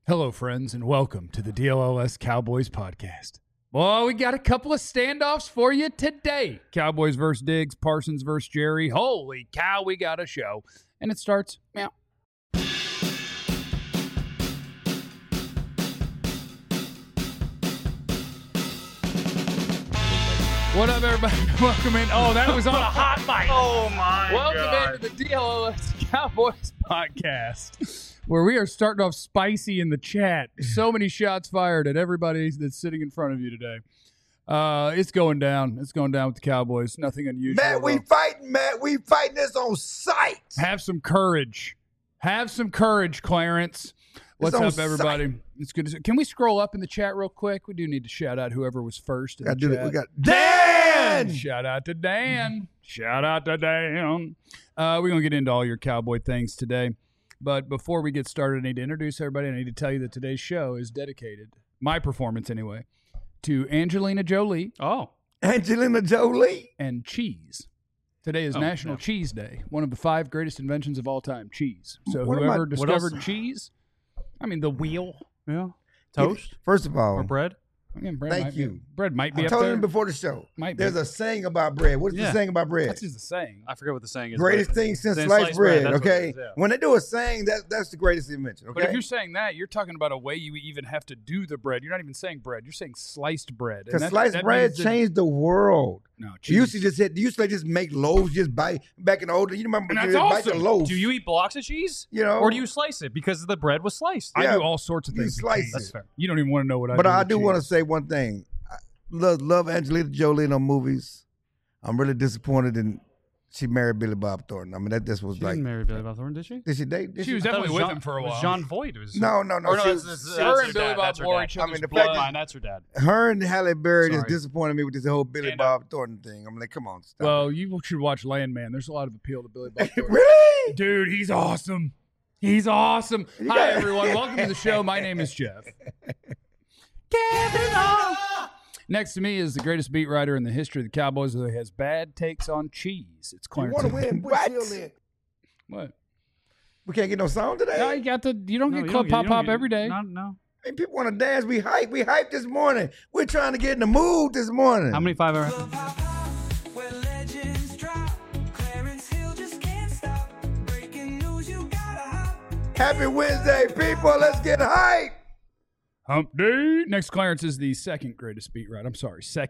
Hello, friends, and welcome to the DLLS Cowboys podcast. Well, we got a couple of standoffs for you today. Cowboys versus Diggs, Parsons versus Jerry. Holy cow, we got a show. And it starts meow. What up, everybody? Welcome in. Oh, that was on a hot mic. Oh, my God. Welcome into the DLLS Cowboys podcast, where we are starting off spicy in the chat. So many shots fired at everybody that's sitting in front of you today. It's going down. It's going down with the Cowboys. Nothing unusual. Matt, we fighting, Matt. We fighting this on sight. Have some courage. Have some courage, Clarence. What's up, everybody? Sight. It's good to see. Can we scroll up in the chat real quick? We do need to shout out whoever was first in the chat. We got Dan! Shout out to Dan. Shout out to Dan. We're going to get into all your Cowboy things today. But before we get started, I need to introduce everybody. I need to tell you that today's show is dedicated, my performance anyway, to Angelina Jolie. Oh. Angelina Jolie? And cheese. Today is National Cheese Day, one of the 5 greatest inventions of all time, cheese. So whoever discovered cheese, I mean, the wheel. Yeah. Toast? First of all. Or bread? Thank you. Bread might be up there. I told him before the show. There's a saying about bread. What is the saying about bread? That's just a saying. I forget what the saying is. Greatest thing since sliced bread, okay? When they do a saying, that's the greatest invention, okay? But if you're saying that, you're talking about a way you even have to do the bread. You're not even saying bread. You're saying sliced bread. Because sliced bread changed the world. No, you used to just make loaves, just back in the old days. You remember that's awesome. Bite the loaf. Do you eat blocks of cheese? You know? Or do you slice it because the bread was sliced? I do all sorts of things. Slice That's fair. You don't even want to know what I do. But I do want to say one thing. Love Angelina Jolie in her movies. I'm really disappointed in she married Billy Bob Thornton. I mean, that just was she like. She didn't marry Billy Bob Thornton, did she? Did she date? She was definitely with him for a while. It was John Voight. No. Or no, that's her and Billy Bob wore each other's bloodline. That's her dad. Her and Halle Berry just disappointed me with this whole Billy Bob Thornton thing. I'm like, come on, stop. Well, you should watch Landman. There's a lot of appeal to Billy Bob Thornton. Really? Dude, he's awesome. He's awesome. Hi, everyone. Welcome to the show. My name is Jeff. Get it on. Next to me is the greatest beat writer in the history of the Cowboys who has bad takes on cheese. It's Clarence. You want to win? What? We can't get no song today? No, you don't get Club Pop every day. No. Hey, people want to dance. We hype this morning. We're trying to get in the mood this morning. How many 5 hour? Happy Wednesday, people. Let's get hype. Hump Day. Next, Clarence is the second greatest beat writer in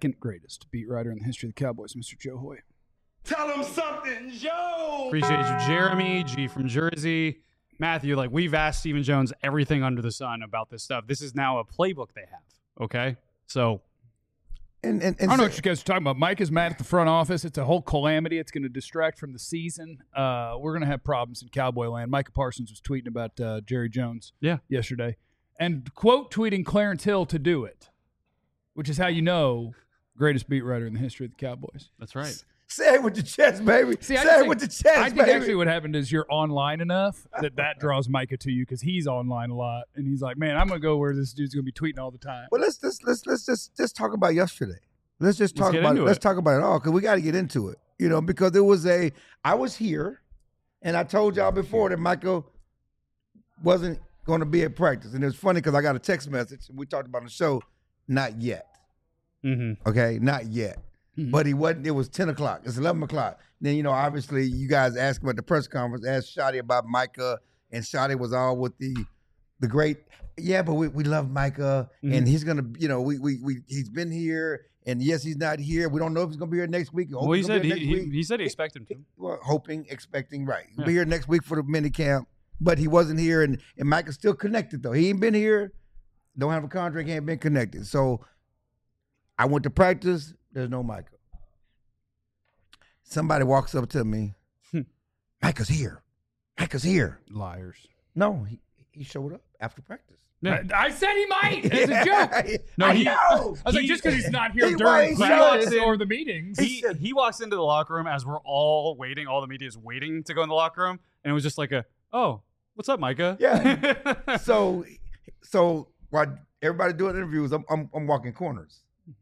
the history of the Cowboys, Mr. Joe Hoy. Tell him something, Joe. Appreciate you, Jeremy, G from Jersey. Matthew, we've asked Stephen Jones everything under the sun about this stuff. This is now a playbook they have, okay? So. And I don't know what you guys are talking about. Mike is mad at the front office. It's a whole calamity. It's going to distract from the season. We're going to have problems in Cowboy land. Micah Parsons was tweeting about Jerry Jones yesterday. And quote tweeting Clarence Hill to do it, which is how you know greatest beat writer in the history of the Cowboys. Say it with your chest, baby. Say it with your chest, baby. I think actually what happened is you're online enough that draws Micah to you because he's online a lot, and he's like, man, I'm gonna go where this dude's gonna be tweeting all the time. Well, let's just talk about yesterday. Let's talk about it all because we got to get into it. You know, because I was here, and I told y'all before that Michael wasn't going to be at practice. And it was funny because I got a text message. We talked about on the show, not yet. Mm-hmm. Okay, not yet. Mm-hmm. But he wasn't. It was 10 o'clock. It's 11 o'clock. Then, obviously you guys asked him at the press conference, asked Shotty about Micah, and Shotty was all with the great, but we love Micah, and he's going to, he's been here, and yes, he's not here. We don't know if he's going to be here next week. Well, he said he expected him to. Well, expecting, right. He'll be here next week for the mini camp. But he wasn't here, and Micah's still connected, though. He ain't been here, don't have a contract, ain't been connected. So I went to practice, there's no Micah. Somebody walks up to me, Micah's here. Liars. No, he showed up after practice. Yeah. I said he might. It's a joke. No, I was like, just because he's not here during practice or the meetings. He walks into the locker room as we're all waiting, all the media is waiting to go in the locker room, and it was just like oh, what's up, Micah? Yeah. So while everybody doing interviews, I'm walking corners.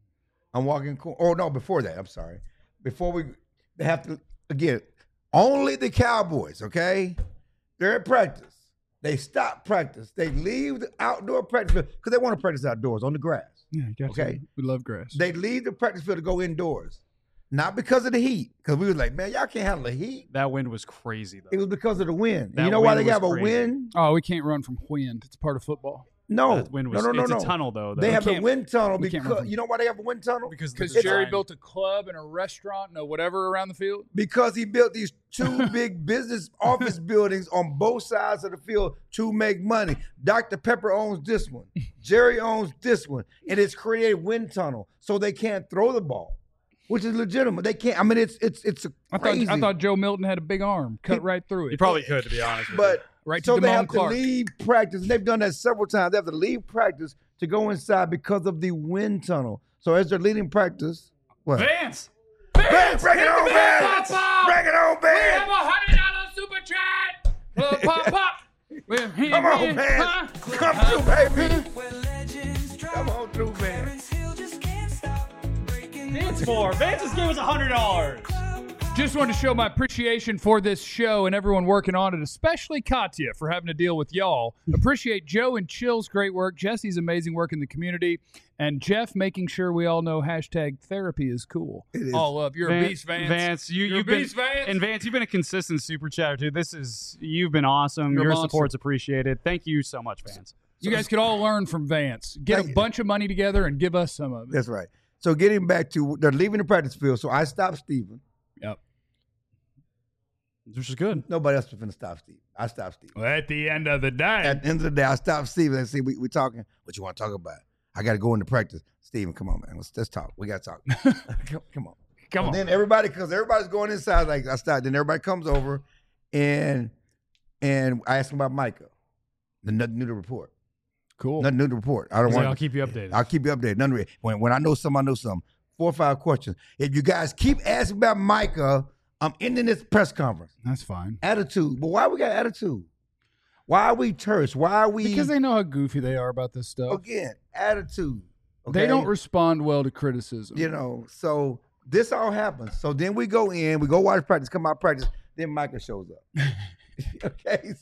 Before that, I'm sorry. Before they have to, again, only the Cowboys, okay? They're at practice. They stop practice. They leave the outdoor practice field because they want to practice outdoors on the grass. Yeah, gotcha. Okay. We love grass. They leave the practice field to go indoors. Not because of the heat, because we was like, man, y'all can't handle the heat. That wind was crazy, though. It was because of the wind. That You know why wind they have was a crazy. wind? Oh, we can't run from wind. It's part of football. No, That wind was, no. It's a tunnel, though. They have a wind tunnel we can't because run from- you know why they have a wind tunnel? because Because the Jerry design- built a club and a restaurant and a whatever around the field. Because he built these two big business office buildings on both sides of the field to make money. Dr. Pepper owns this one. Jerry owns this one. And it's created wind tunnel so they can't throw the ball, which is legitimate. They can't. I mean, it's crazy. I thought Joe Milton had a big arm, cut right through it. You probably could, to be honest with But Right so to they Damone have Clark. to leave practice. And they've done that several times. They have to leave practice to go inside because of the wind tunnel. So as they're leading practice, what? Vance! Vance, bring it on, Vance! Bring it on, Vance! $100 super chat. Pop, pop. Come on, Vance! Come through, baby! Come on through, Vance. Vance just gave us $100. Just wanted to show my appreciation for this show and everyone working on it, especially Katya for having to deal with y'all. Appreciate Joe and Chill's great work, Jesse's amazing work in the community, and Jeff making sure we all know hashtag therapy is cool. It is. All up. You're a beast, Vance. Vance, You're a you've been, beast, Vance. and Vance, you've been a consistent super chatter, dude. You've been awesome. You're a Your monster. support's appreciated. Thank you so much, Vance. You guys could all learn from Vance. Get a Thank you. bunch of money together and give us some of it. That's right. So getting back to, they're leaving the practice field. So I stopped Steven. Yep. Which is good. Nobody else was going to stop Steven. I stopped Steven. Well, at the end of the day. At the end of the day, I stopped Steven and said, we talking. What you want to talk about? I got to go into practice. Steven, come on, man. Let's talk. We got to talk. Come on. Come on. Then everybody's going inside, like I stopped. Then everybody comes over and I asked him about Micah. Nothing new to report. Cool. Nothing new to report. I don't He's want. like, I'll keep you updated. I'll keep you updated. None. When I know something, I know something. 4 or 5 questions. If you guys keep asking about Micah, I'm ending this press conference. That's fine. Attitude. But why we got attitude? Why are we terse? Why are we? Because they know how goofy they are about this stuff. Again, attitude. Okay? They don't respond well to criticism. You know, so this all happens. So then we go in, we go watch practice, come out practice, then Micah shows up. Okay?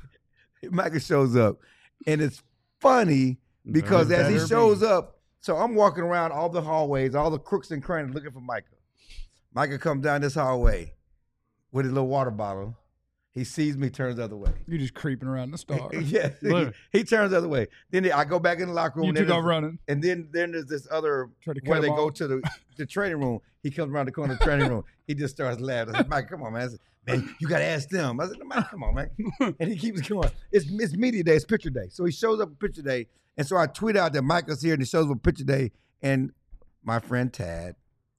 Micah shows up. And it's funny because as he better shows up, so I'm walking around all the hallways, all the crooks and crannies looking for Micah. Micah comes down this hallway with his little water bottle. He sees me, turns the other way. You're just creeping around the star. Yes, Look. he turns the other way. Then I go back in the locker room. You and two then go running. And then there's this other Try to cut where they him go off. to the training room. He comes around the corner of the training room. He just starts laughing. I said, Mike, come on, man. I said, man, you got to ask them. I said, Mike, come on, man. And he keeps going. It's media day. It's picture day. So he shows up at picture day. And so I tweet out that Michael's here and he shows up at picture day. And my friend Tad,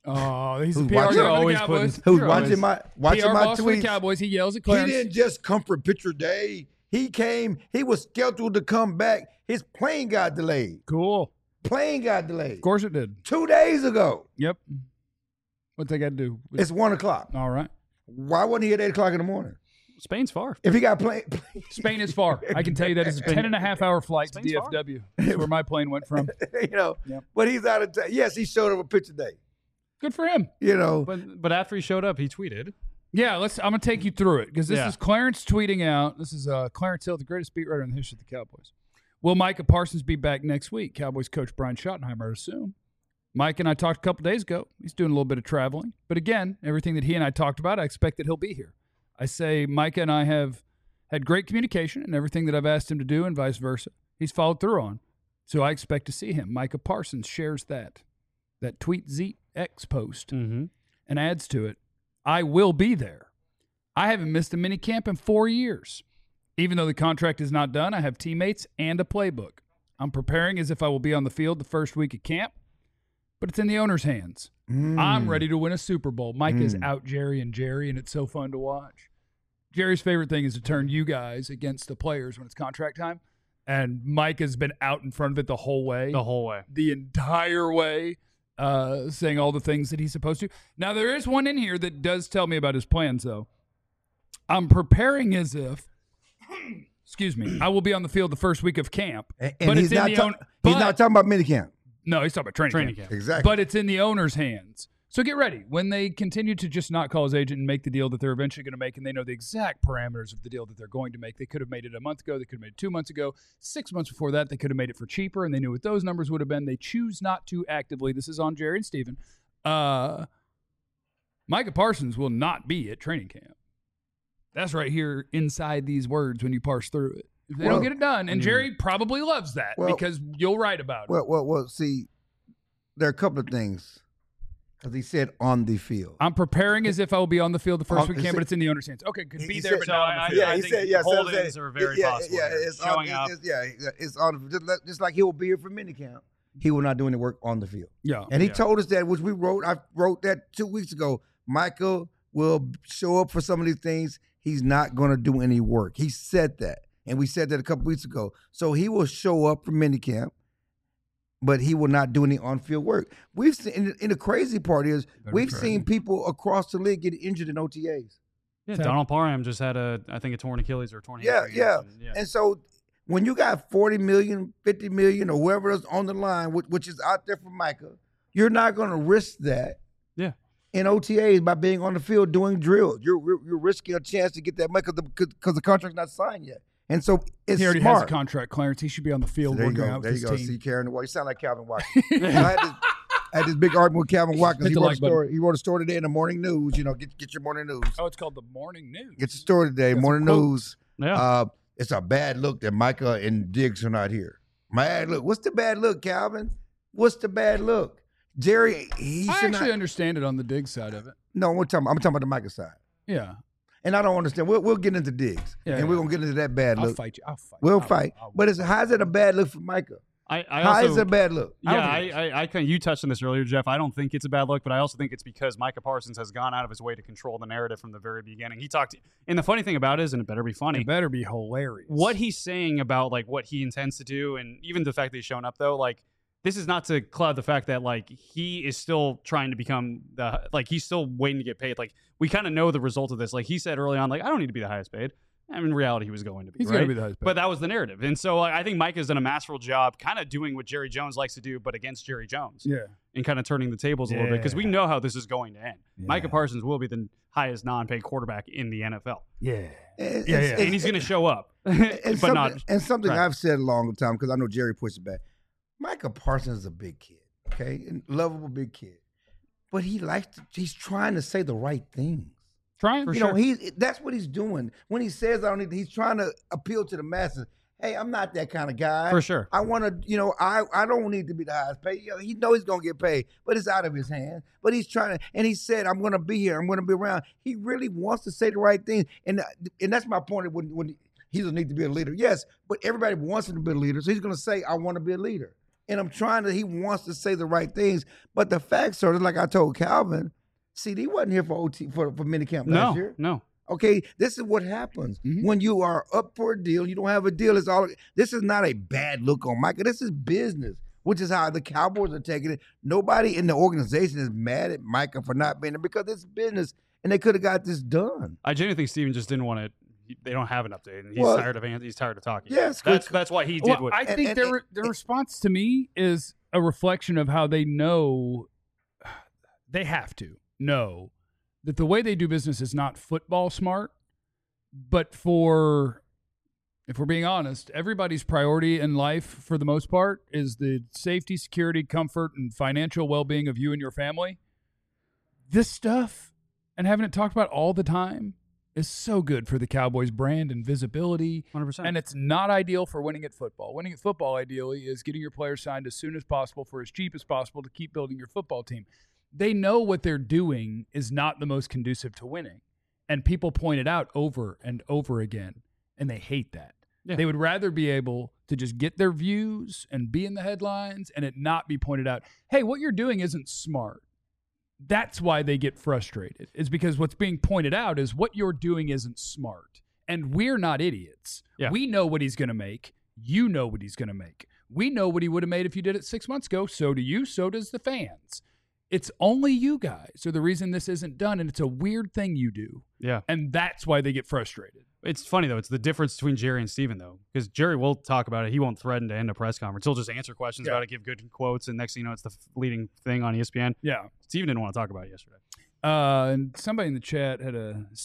Oh, he's a Who's PR watching- guy for the always Cowboys. putting- who's You're watching always- my PR boss for the tweets. Cowboys. He yells at He Clarence. didn't just come for picture day. He came. He was scheduled to come back. His plane got delayed. Cool. Plane got delayed. Of course it did. 2 days ago. Yep. What they got to do? It's 1 o'clock. All right. Why wasn't he at 8 o'clock in the morning? Spain's far. If he got plane, Spain is far. I can tell you that it's a 10.5-hour flight to Spain's far. DFW. That's where my plane went from. you know, Yep. but he's out of town. Yes, he showed up a picture day. Good for him. You know, But after he showed up, he tweeted. Yeah, I'm gonna take you through it because this Yeah. is Clarence tweeting out. This is Clarence Hill, the greatest beat writer in the history of the Cowboys. Will Micah Parsons be back next week? Cowboys coach Brian Schottenheimer, I assume. Mike and I talked a couple days ago. He's doing a little bit of traveling, but again, everything that he and I talked about, I expect that he'll be here. I say Micah and I have had great communication, and everything that I've asked him to do, and vice versa, he's followed through on. So I expect to see him. Micah Parsons shares that tweet ZX post Mm-hmm. and adds to it, I will be there. I haven't missed a mini camp in 4 years. Even though the contract is not done, I have teammates and a playbook. I'm preparing as if I will be on the field the first week of camp, but it's in the owner's hands. I'm ready to win a Super Bowl. Mike is out Jerry, and it's so fun to watch. Jerry's favorite thing is to turn you guys against the players when it's contract time, and Mike has been out in front of it the whole way. The whole way. The entire way. Saying all the things that he's supposed to. Now, there is one in here that does tell me about his plans, though. I'm preparing as if, excuse me, I will be on the field the first week of camp. and but he's it's in not the he's not talking about minicamp. No, he's talking about training camp. Exactly. But it's in the owner's hands. So get ready. When they continue to just not call his agent and make the deal that they're eventually going to make, and they know the exact parameters of the deal that they're going to make, they could have made it a month ago. They could have made it 2 months ago. 6 months before that, they could have made it for cheaper, and they knew what those numbers would have been. They choose not to actively. This is on Jerry and Steven. Micah Parsons will not be at training camp. That's right here inside these words when you parse through it. If they don't get it done, and Jerry probably loves that because you'll write about it. Well, see, there are a couple of things. Because he said on the field. I'm preparing as if I will be on the field the first week camp, but it's in the understands. Okay, could be there, but not on the field. I think hold-ins are very possible. It's showing up. It's on just like he will be here for minicamp. He will not do any work on the field. Yeah. And he told us that, which we wrote. I wrote that 2 weeks ago. Michael will show up for some of these things. He's not going to do any work. He said that. And we said that a couple weeks ago. So he will show up for minicamp, but he will not do any on-field work. We've seen, and the crazy part is, we've seen people across the league get injured in OTAs. Yeah, Donald Parham just had a torn Achilles or a torn hamstring. Yeah. And so when you got $40 million, $50 million, or whatever is on the line, which is out there for Micah, you're not going to risk that. Yeah. In OTAs by being on the field doing drills. You're risking a chance to get that money because the contract's not signed yet. And so it's he already smart. has a contract, Clarence. He should be on the field working out with his team. See, carrying the ball. You sound like Calvin Watkins. I had this big argument with Calvin Watkins. He wrote a story today in the Morning News. You know, get your morning news. Oh, it's called the Morning News. Get your story today, Morning News. Yeah. It's a bad look that Micah and Diggs are not here. Bad look. What's the bad look, Calvin? What's the bad look? Jerry, I actually understand it on the Diggs side of it. No, I'm talking about the Micah side. Yeah. And I don't understand. We'll get into Diggs, and we're gonna get into that bad look. I'll fight you. We'll fight. But how's it a bad look for Micah? How is it a bad look? I you touched on this earlier, Jeff. I don't think it's a bad look, but I also think it's because Micah Parsons has gone out of his way to control the narrative from the very beginning. He talked, and the funny thing about it is, and it better be funny. It better be hilarious. What he's saying about like what he intends to do, and even the fact that he's shown up though, like. This is not to cloud the fact that like he is still trying to become he's still waiting to get paid. Like we kind of know the result of this. Like he said early on, like I don't need to be the highest paid. I mean, in reality, he was going to be. He's going to be the highest paid. But that was the narrative, and so I think Mike has done a masterful job, kind of doing what Jerry Jones likes to do, but against Jerry Jones. Yeah, and kind of turning the tables a little bit because we know how this is going to end. Yeah. Micah Parsons will be the highest non-paid quarterback in the NFL. Yeah, and he's going to show up, and something I've said a long time because I know Jerry pushed it back. Micah Parsons is a big kid, okay? And lovable big kid. But he's trying to say the right things. That's what he's doing. When he says I don't need, he's trying to appeal to the masses. Hey, I'm not that kind of guy. For sure. I want to, I don't need to be the highest paid. He knows he's going to get paid, but it's out of his hands. But he's trying to, and he said, I'm going to be here. I'm going to be around. He really wants to say the right things. And that's my point when he doesn't need to be a leader. Yes, but everybody wants him to be a leader. So he's going to say, I want to be a leader. And he wants to say the right things. But the facts are, like I told Calvin, CD wasn't here for minicamp last year. No. Okay, this is what happens. Mm-hmm. When you are up for a deal, you don't have a deal. This is not a bad look on Micah. This is business, which is how the Cowboys are taking it. Nobody in the organization is mad at Micah for not being there because it's business, and they could have got this done. I genuinely think Steven just didn't want to. They don't have an update, and he's tired of talking. Yes, that's why he did. I think their response to me is a reflection of how they know they have to know that the way they do business is not football smart, but if we're being honest, everybody's priority in life for the most part is the safety, security, comfort, and financial well-being of you and your family. This stuff and having it talked about all the time is so good for the Cowboys brand and visibility. 100%. And it's not ideal for winning at football. Winning at football, ideally, is getting your players signed as soon as possible for as cheap as possible to keep building your football team. They know what they're doing is not the most conducive to winning. And people point it out over and over again, and they hate that. Yeah. They would rather be able to just get their views and be in the headlines and it not be pointed out, hey, what you're doing isn't smart. That's why they get frustrated, is because what's being pointed out is what you're doing isn't smart. And we're not idiots. Yeah. We know what he's going to make. You know what he's going to make. We know what he would have made if you did it 6 months ago. So do you. So does the fans. It's only you guys are the reason this isn't done, and it's a weird thing you do. Yeah. And that's why they get frustrated. It's funny, though. It's the difference between Jerry and Steven, though. Because Jerry will talk about it. He won't threaten to end a press conference. He'll just answer questions about it, give good quotes, and next thing you know, it's the leading thing on ESPN. Yeah. Steven didn't want to talk about it yesterday. And somebody in the chat had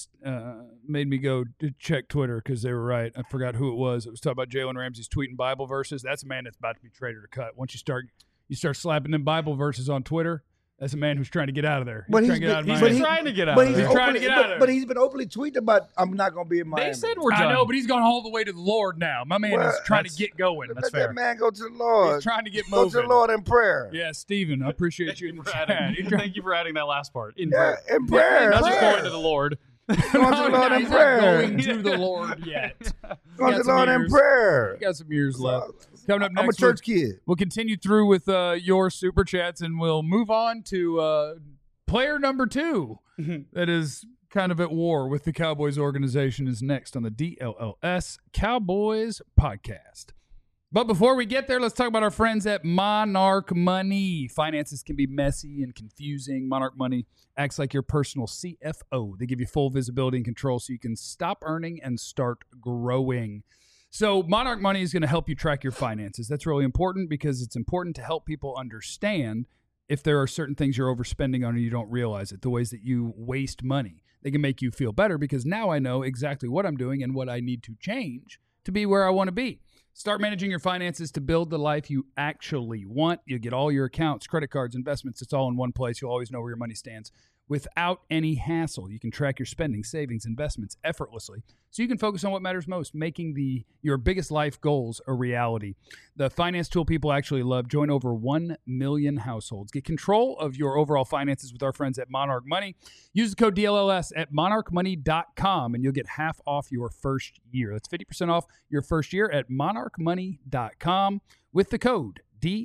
made me go to check Twitter because they were right. I forgot who it was. It was talking about Jalen Ramsey's tweeting Bible verses. That's a man that's about to be traded or cut. Once you start slapping them Bible verses on Twitter, that's a man who's trying to get out of there. He's trying to get out of there. He's trying to get out of there. But he's been openly tweeting about, I'm not going to be in Miami. They said we're done. I know, but he's gone all the way to the Lord now. My man is trying to get going. Let that man go to the Lord. He's trying to get moving. Go to the Lord in prayer. Yeah, Stephen, I appreciate you in the chat. Thank you for adding that last part. In prayer. Not just going to the Lord. Going to the Lord in prayer. Going to the Lord yet. Going to the Lord in prayer. You got some years left. Coming up next, I'm a church kid. We'll continue through with your super chats, and we'll move on to player number 2 that is kind of at war with the Cowboys organization is next on the DLLS Cowboys podcast. But before we get there, let's talk about our friends at Monarch Money. Finances can be messy and confusing. Monarch Money acts like your personal CFO. They give you full visibility and control so you can stop earning and start growing. So Monarch Money is going to help you track your finances. That's really important because it's important to help people understand if there are certain things you're overspending on and you don't realize it, the ways that you waste money. They can make you feel better because now I know exactly what I'm doing and what I need to change to be where I want to be. Start managing your finances to build the life you actually want. You'll get all your accounts, credit cards, investments. It's all in one place. You'll always know where your money stands without any hassle. You can track your spending, savings, investments effortlessly so you can focus on what matters most, making your biggest life goals a reality. The finance tool people actually love. Join over 1 million households. Get control of your overall finances with our friends at Monarch Money. Use the code DLLS at monarchmoney.com and you'll get half off your first year. That's 50% off your first year at monarchmoney.com with the code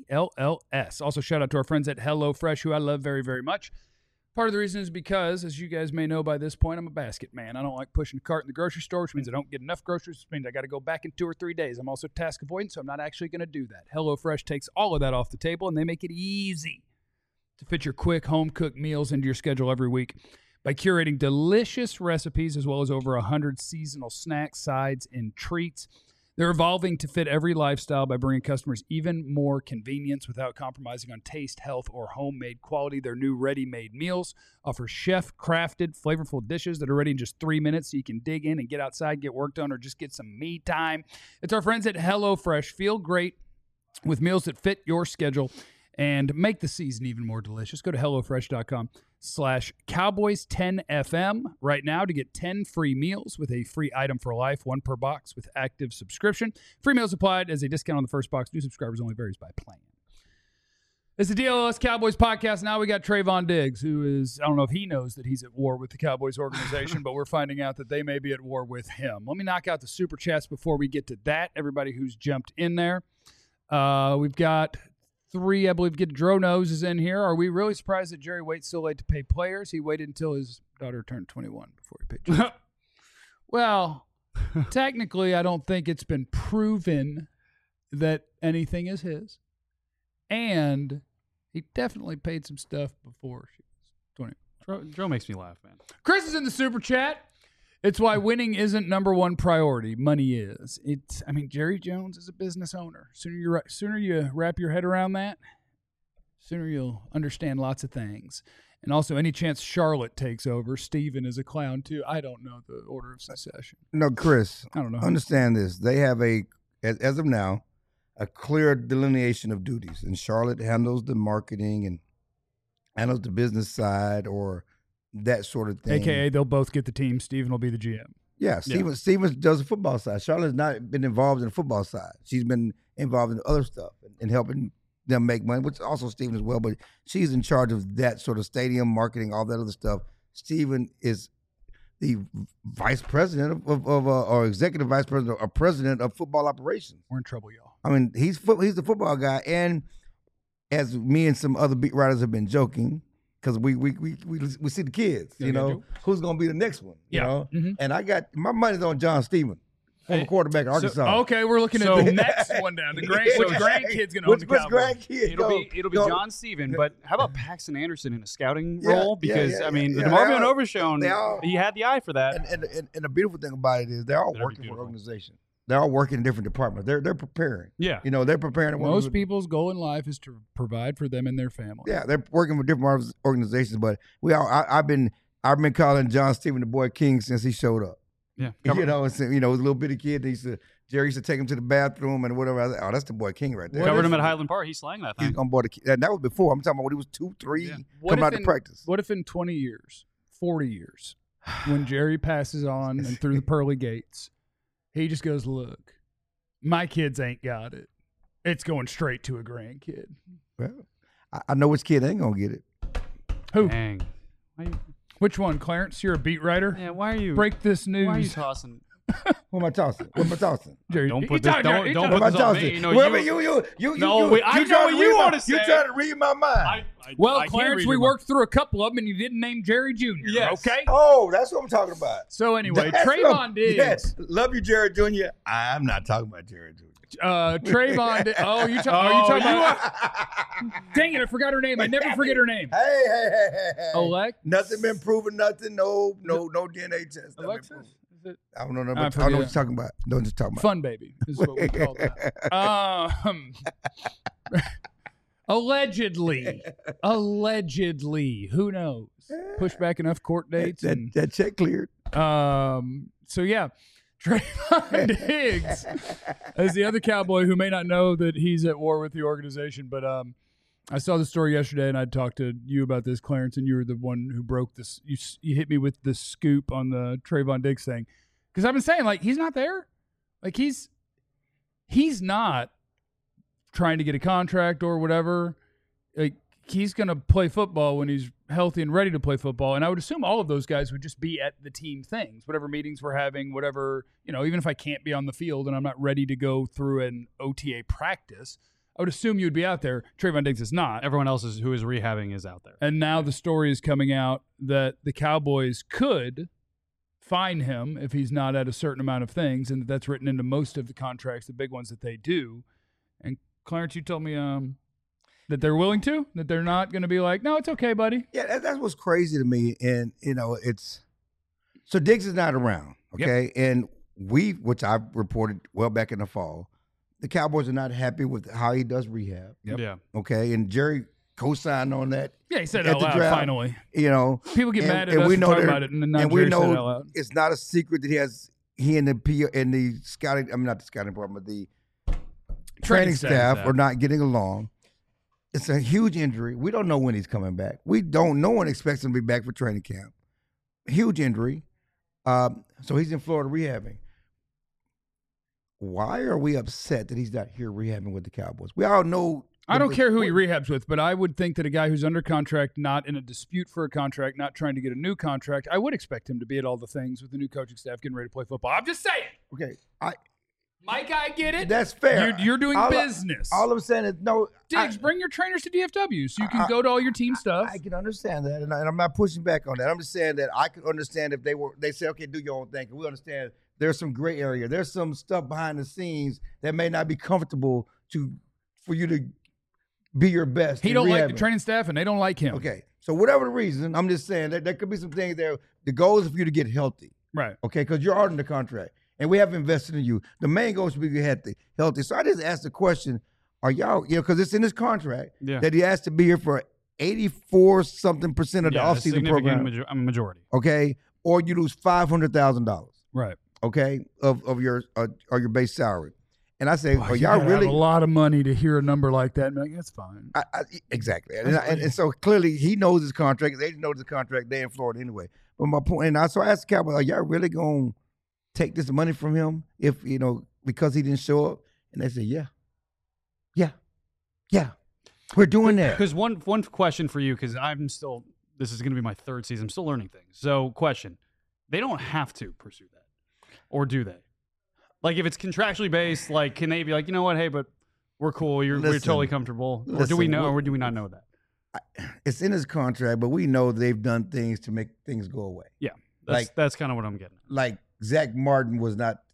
DLLS. Also, shout out to our friends at HelloFresh, who I love very, very much. Part of the reason is because, as you guys may know by this point, I'm a basket man. I don't like pushing a cart in the grocery store, which means I don't get enough groceries, which means I got to go back in 2 or 3 days. I'm also task avoidant, so I'm not actually going to do that. HelloFresh takes all of that off the table, and they make it easy to fit your quick home-cooked meals into your schedule every week by curating delicious recipes as well as over 100 seasonal snacks, sides, and treats. They're evolving to fit every lifestyle by bringing customers even more convenience without compromising on taste, health, or homemade quality. Their new ready-made meals offer chef-crafted, flavorful dishes that are ready in just 3 minutes so you can dig in and get outside, get work done, or just get some me time. It's our friends at HelloFresh. Feel great with meals that fit your schedule and make the season even more delicious. Go to HelloFresh.com/Cowboys10FM right now to get 10 free meals with a free item for life, 1 per box with active subscription. Free meals applied as a discount on the first box. New subscribers only, varies by plan. It's the DLLS Cowboys podcast. Now we got Trayvon Diggs, who is, I don't know if he knows that he's at war with the Cowboys organization, but we're finding out that they may be at war with him. Let me knock out the super chats before we get to that. Everybody who's jumped in there. We've got 3, I believe, Get Dro Nose is in here. Are we really surprised that Jerry waits so late to pay players? He waited until his daughter turned 21 before he paid Jerry. Well, technically, I don't think it's been proven that anything is his. And he definitely paid some stuff before she was 20. Dro makes me laugh, man. Chris is in the super chat. It's why winning isn't number one priority. Money is. Jerry Jones is a business owner. Sooner you wrap your head around that, sooner you'll understand lots of things. And also, any chance Charlotte takes over, Steven is a clown too. I don't know the order of succession. No, Chris. I don't know. Understand this. They have as of now, a clear delineation of duties. And Charlotte handles the marketing and handles the business side or that sort of thing. AKA, they'll both get the team. Steven will be the GM. Yeah, Steven does the football side. Charlotte's not been involved in the football side. She's been involved in other stuff and helping them make money, which also Steven as well, but she's in charge of that sort of stadium marketing, all that other stuff. Steven is the vice president or executive vice president or president of football operations. We're in trouble, y'all. I mean, he's the football guy, and as me and some other beat writers have been joking, because we see the kids, who's going to be the next one, you know? Mm-hmm. And I got my money's on John Steven. former quarterback at Arkansas. Okay, we're looking at the next one down. The grandkid's going to own the Cowboys. It'll be John Steven, but how about Paxton Anderson in a scouting role? Because, the DeMarvion Overshown, he had the eye for that. And the beautiful thing about it is they're all working for an organization. They're all working in different departments. They're preparing. Yeah. They're preparing. Most people's goal in life is to provide for them and their family. Yeah, they're working with different organizations, but I've been calling John Steven the boy king since he showed up. Yeah. He was a little bitty kid. Jerry used to take him to the bathroom and whatever. I was like, oh, that's the boy king right there. Covered him at Highland Park. He slang that thing. He's on board. And that was before. I'm talking about when he was 2, 3, coming out to practice. What if in 20 years, 40 years, when Jerry passes on and through the pearly gates, he just goes, look, my kids ain't got it. It's going straight to a grandkid. Well, I know which kid ain't going to get it. Who? Dang. Which one, Clarence? You're a beat writer? Yeah, why are you? Break this news. Why are you tossing? What am I tossing? Jerry, don't put this on me. You know what you want to say. You trying to read my mind. Clarence, we worked through a couple of them, and you didn't name Jerry Jr. Yes. Okay. Oh, that's what I'm talking about. So anyway, Trayvon Diggs. Yes, love you, Jerry Jr. I'm not talking about Jerry Jr. Trayvon Diggs. Oh, you talking about? Dang it! I forgot her name. I never forget her name. Hey. Alec. Nothing been proven. Nothing. No DNA test. Alexis. I don't know. I don't know what you're talking about. Don't just talk about. Fun baby is what we call that. Allegedly, who knows? Push back enough court dates. That check cleared. So yeah, Trayvon Diggs is the other Cowboy who may not know that he's at war with the organization, but I saw the story yesterday, and I talked to you about this, Clarence, and you were the one who broke this. You hit me with the scoop on the Trayvon Diggs thing, because I've been saying, like, he's not there. Like, he's not trying to get a contract or whatever. Like, he's going to play football when he's healthy and ready to play football, and I would assume all of those guys would just be at the team things, whatever meetings we're having, whatever, even if I can't be on the field and I'm not ready to go through an OTA practice, I would assume you'd be out there. Trayvon Diggs is not. Everyone else who is rehabbing is out there. And now the story is coming out that the Cowboys could fine him if he's not at a certain amount of things, and that's written into most of the contracts, the big ones that they do. And Clarence, you told me that they're willing to, that they're not going to be like, no, it's okay, buddy. Yeah, that's what's crazy to me. And, it's – so Diggs is not around, okay? Yep. And which I reported well back in the fall, the Cowboys are not happy with how he does rehab. Yep. Yeah. Okay, and Jerry co-signed on that. Yeah, he said it out loud, finally. People get mad at us and talk about it, and then Jerry said it out loud. It's not a secret that he and the scouting, not the scouting department, the training staff are not getting along. It's a huge injury. We don't know when he's coming back. No one expects him to be back for training camp. Huge injury. So he's in Florida rehabbing. Why are we upset that he's not here rehabbing with the Cowboys? We all know. I don't care who he rehabs with, but I would think that a guy who's under contract, not in a dispute for a contract, not trying to get a new contract, I would expect him to be at all the things with the new coaching staff getting ready to play football. I'm just saying. Okay. Mike, I get it. That's fair. You're doing business. All I'm saying is no. Diggs, bring your trainers to DFW so you can go to all your team stuff. I can understand that, and I'm not pushing back on that. I'm just saying that I could understand if they say, okay, do your own thing. We understand there's some gray area. There's some stuff behind the scenes that may not be comfortable for you to be your best. He don't like the training staff, and they don't like him. Okay, so whatever the reason, I'm just saying that there could be some things there. The goal is for you to get healthy. Right. Okay, because you're under the contract. And we have invested in you. The main goal is to be healthy. So I just asked the question, are y'all, because it's in his contract that he has to be here for 84-something% of the offseason program. Majority. Okay? Or you lose $500,000. Right. Okay? Of your base salary. And I say, are y'all really? Have a lot of money to hear a number like that. Like, that's fine. Exactly. And so clearly he knows his contract. They know his contract. They're in Florida anyway. But my point, so I asked the Cowboys, are y'all really going to take this money from him because he didn't show up? And they said, yeah, we're doing that. Because one question for you, because this is going to be my third season, I'm still learning things. So question, they don't have to pursue that, or do they? Like if it's contractually based, like can they be like, you know what, hey, but we're cool, we're totally comfortable, or do we know, or do we not know that? It's in his contract, but we know they've done things to make things go away. Yeah, that's kind of what I'm getting at. Like Zach Martin was not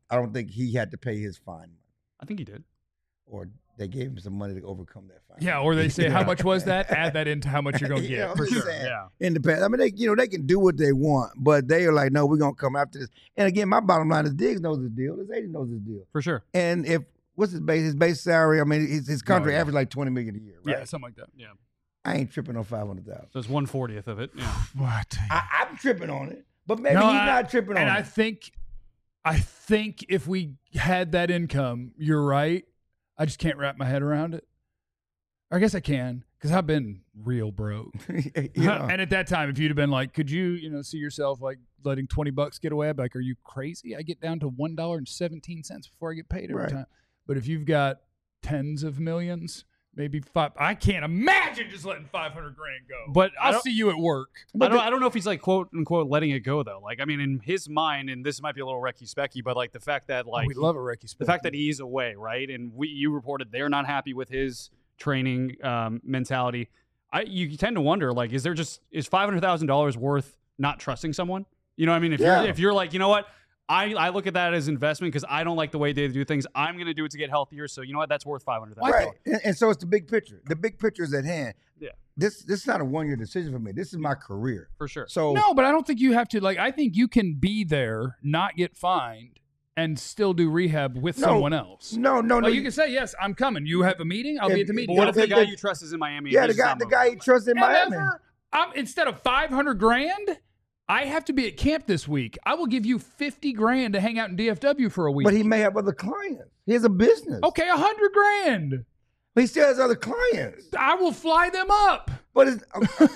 I don't think he had to pay his fine. I think he did. Or they gave him some money to overcome that fine. Yeah, or they say, how much was that? Add that into how much you're going to get. For sure. Yeah. In the past, I mean, they can do what they want, but they are like, no, we're gonna come after this. And again, my bottom line is Diggs knows his deal. His agent knows his deal. For sure. And what's his base? His base salary. I mean, his contract average like $20 million a year, right? Yeah, something like that. Yeah. I ain't tripping on $500,000. So it's 1/40th of it. Yeah. What? I'm tripping on it, but maybe he's not tripping on it. And I think if we had that income, you're right. I just can't wrap my head around it. I guess I can, because I've been real broke. And at that time, if you'd have been like, could you, see yourself like letting $20 get away? I'd be like, are you crazy? I get down to $1.17 before I get paid every time. But if you've got tens of millions, maybe five, I can't imagine just letting $500,000 go. But I'll see you at work. I don't know if he's like quote unquote letting it go though. Like, I mean, in his mind, and this might be a little Recky Specky, but like the fact that like we love a Recky Specky. The fact that he's away, right? And you reported they're not happy with his training mentality. You tend to wonder, like, is $500,000 worth not trusting someone? You know what I mean? If you're like, you know what? I look at that as investment because I don't like the way they do things. I'm going to do it to get healthier. So you know what? That's worth $500,000. Right. And so it's the big picture. The big picture is at hand. Yeah. This is not a 1-year decision for me. This is my career. For sure. So no, but I don't think you have to. Like, I think you can be there, not get fined, and still do rehab with someone else. No. You can say, yes, I'm coming. You have a meeting? I'll be at the meeting. But what if the guy you trust is in Miami? Yeah, the guy you trust in Miami. Instead of $500,000, I have to be at camp this week. I will give you $50,000 to hang out in DFW for a week. But he may have other clients. He has a business. Okay, $100,000. But he still has other clients. I will fly them up. But it's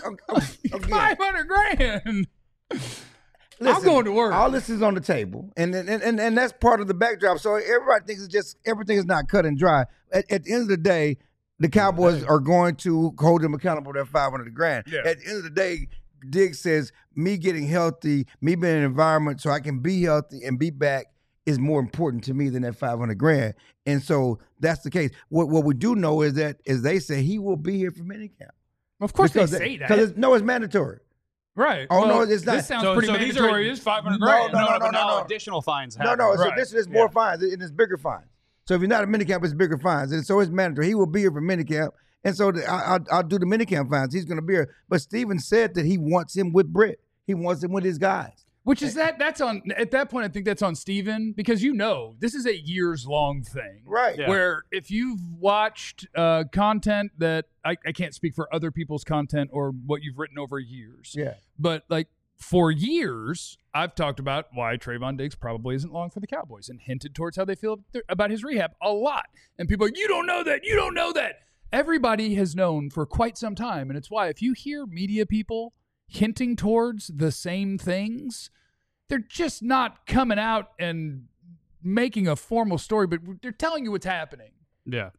$500,000. Listen, I'm going to work. All this is on the table, and that's part of the backdrop. So everybody thinks it's just everything is not cut and dry. At the end of the day, the Cowboys are going to hold them accountable for that $500,000. Yeah. At the end of the day, Diggs says me getting healthy, me being in an environment so I can be healthy and be back is more important to me than that $500,000. And so that's the case. What we do know is that, as they say, he will be here for minicamp. Of course they say that. Because it's mandatory. Right. Oh, no, it's not. This sounds pretty mandatory. It's $500,000. No. Additional fines No. happen. So this is more fines, and it's bigger fines. So if you're not a minicamp, it's bigger fines. And so it's mandatory. He will be here for minicamp. And so I'll do the minicamp fines. He's going to be here. But Steven said that he wants him with Britt. He wants him with his guys. Which is that's on, at that point, I think that's on Steven, because this is a years-long thing. Right. Yeah. Where if you've watched content that, I can't speak for other people's content or what you've written over years. Yeah. But like for years, I've talked about why Trayvon Diggs probably isn't long for the Cowboys and hinted towards how they feel about his rehab a lot. And people are like, you don't know that. You don't know that. Everybody has known for quite some time. And it's why if you hear media people hinting towards the same things, they're just not coming out and making a formal story, but they're telling you what's happening. Yeah.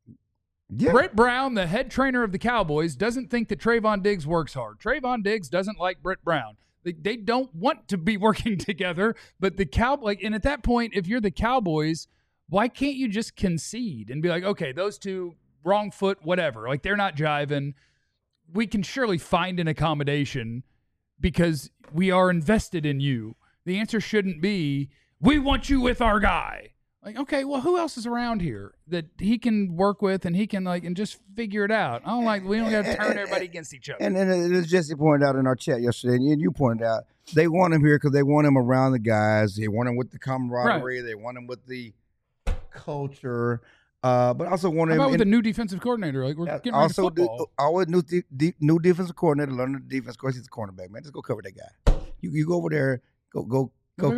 Brett Brown, the head trainer of the Cowboys, doesn't think that Trayvon Diggs works hard. Trayvon Diggs doesn't like Brett Brown. They don't want to be working together, but the Cowboys, and at that point, if you're the Cowboys, why can't you just concede and be like, okay, those two, wrong foot, whatever. Like, they're not jiving. We can surely find an accommodation because we are invested in you. The answer shouldn't be, we want you with our guy. Like, okay, well, who else is around here that he can work with and he can and just figure it out? I don't we don't got to turn everybody against each other. And as Jesse pointed out in our chat yesterday, and you pointed out, they want him here because they want him around the guys. They want him with the camaraderie. Right. They want him with the culture. But also want him. How about with the new defensive coordinator? Like, we're getting ready to football. Always new defensive coordinator, learning the defense. Of course, he's a cornerback, man. Just go cover that guy. You go over there. Go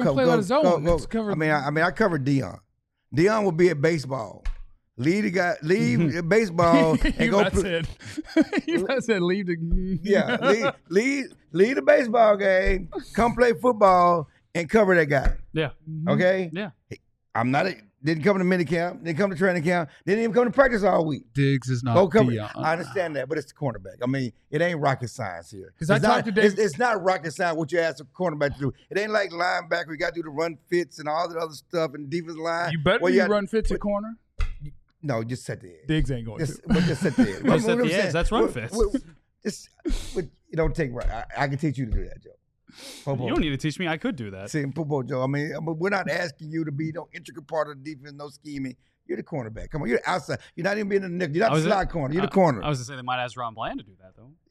cover. I covered Dion. Dion will be at baseball. Leave baseball and go. You said leave the. Yeah, leave the baseball game. Come play football and cover that guy. Yeah. Okay. Yeah. Didn't come to minicamp. Didn't come to training camp. Didn't even come to practice all week. Diggs is not Dion. I understand that, but it's the cornerback. I mean, it ain't rocket science here. Because I talked to Diggs. It's not rocket science what you ask a cornerback to do. It ain't like linebacker. You got to do the run fits and all that other stuff and defensive line. You better run fits at corner. No, just set the edge. Diggs ain't going to. Just set the edge. Just set the edge. That's run fits. You don't take right. I can teach you to do that, Joe. Popo. You don't need to teach me. I could do that. See, Popo Joe. I mean, we're not asking you to be no intricate part of the defense, no scheming. You're the cornerback. Come on, you're outside. You're not even being in the nickel. You're not the slot corner. You're the corner. I was going to say they might ask Ron Bland to do that, though.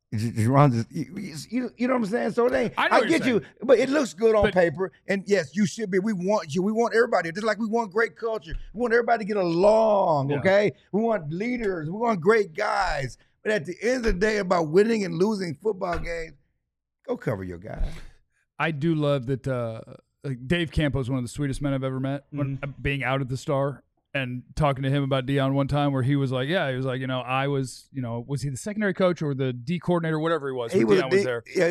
You know what I'm saying? So I get you, but it looks good on paper. And yes, you should be. We want you. We want everybody. Just like we want great culture. We want everybody to get along, okay? We want leaders. We want great guys. But at the end of the day, about winning and losing football games, go cover your guy. I do love that Dave Campo is one of the sweetest men I've ever met, being out at the Star. And talking to him about Deion one time where he was like, I was, was he the secondary coach or the D coordinator, whatever he was? Deion was there. Yeah,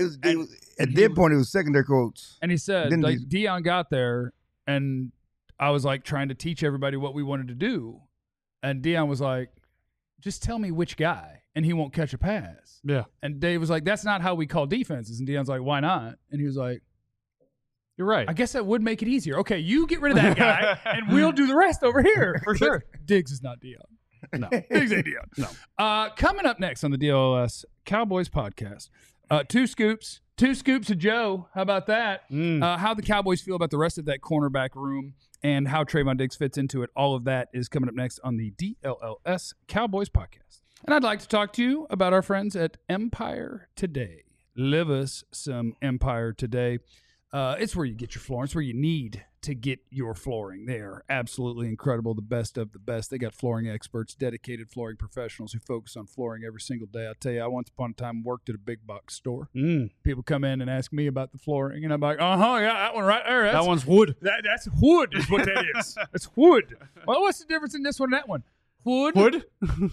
at that point, he was secondary coach. And he said, Deion got there, and I was like trying to teach everybody what we wanted to do. And Deion was like, just tell me which guy, and he won't catch a pass. Yeah. And Dave was like, that's not how we call defenses. And Deion's like, why not? And he was like, you're right. I guess that would make it easier. Okay, you get rid of that guy, and we'll do the rest over here. For sure. Diggs is not Deion. No. Diggs ain't Deion. No. Coming up next on the DLLS Cowboys podcast, two scoops of Joe. How about that? How the Cowboys feel about the rest of that cornerback room and how Trayvon Diggs fits into it. All of that is coming up next on the DLLS Cowboys podcast. And I'd like to talk to you about our friends at Empire Today. Live us some Empire Today. It's where you get your flooring. It's where you need to get your flooring. They are absolutely incredible, the best of the best. They got flooring experts, dedicated flooring professionals who focus on flooring every single day. I'll tell you, I once upon a time worked at a big box store. People come in and ask me about the flooring, and I'm like, yeah, that one right there. That one's wood. That's wood is what that is. That's wood. Well, what's the difference in this one and that one? Wood?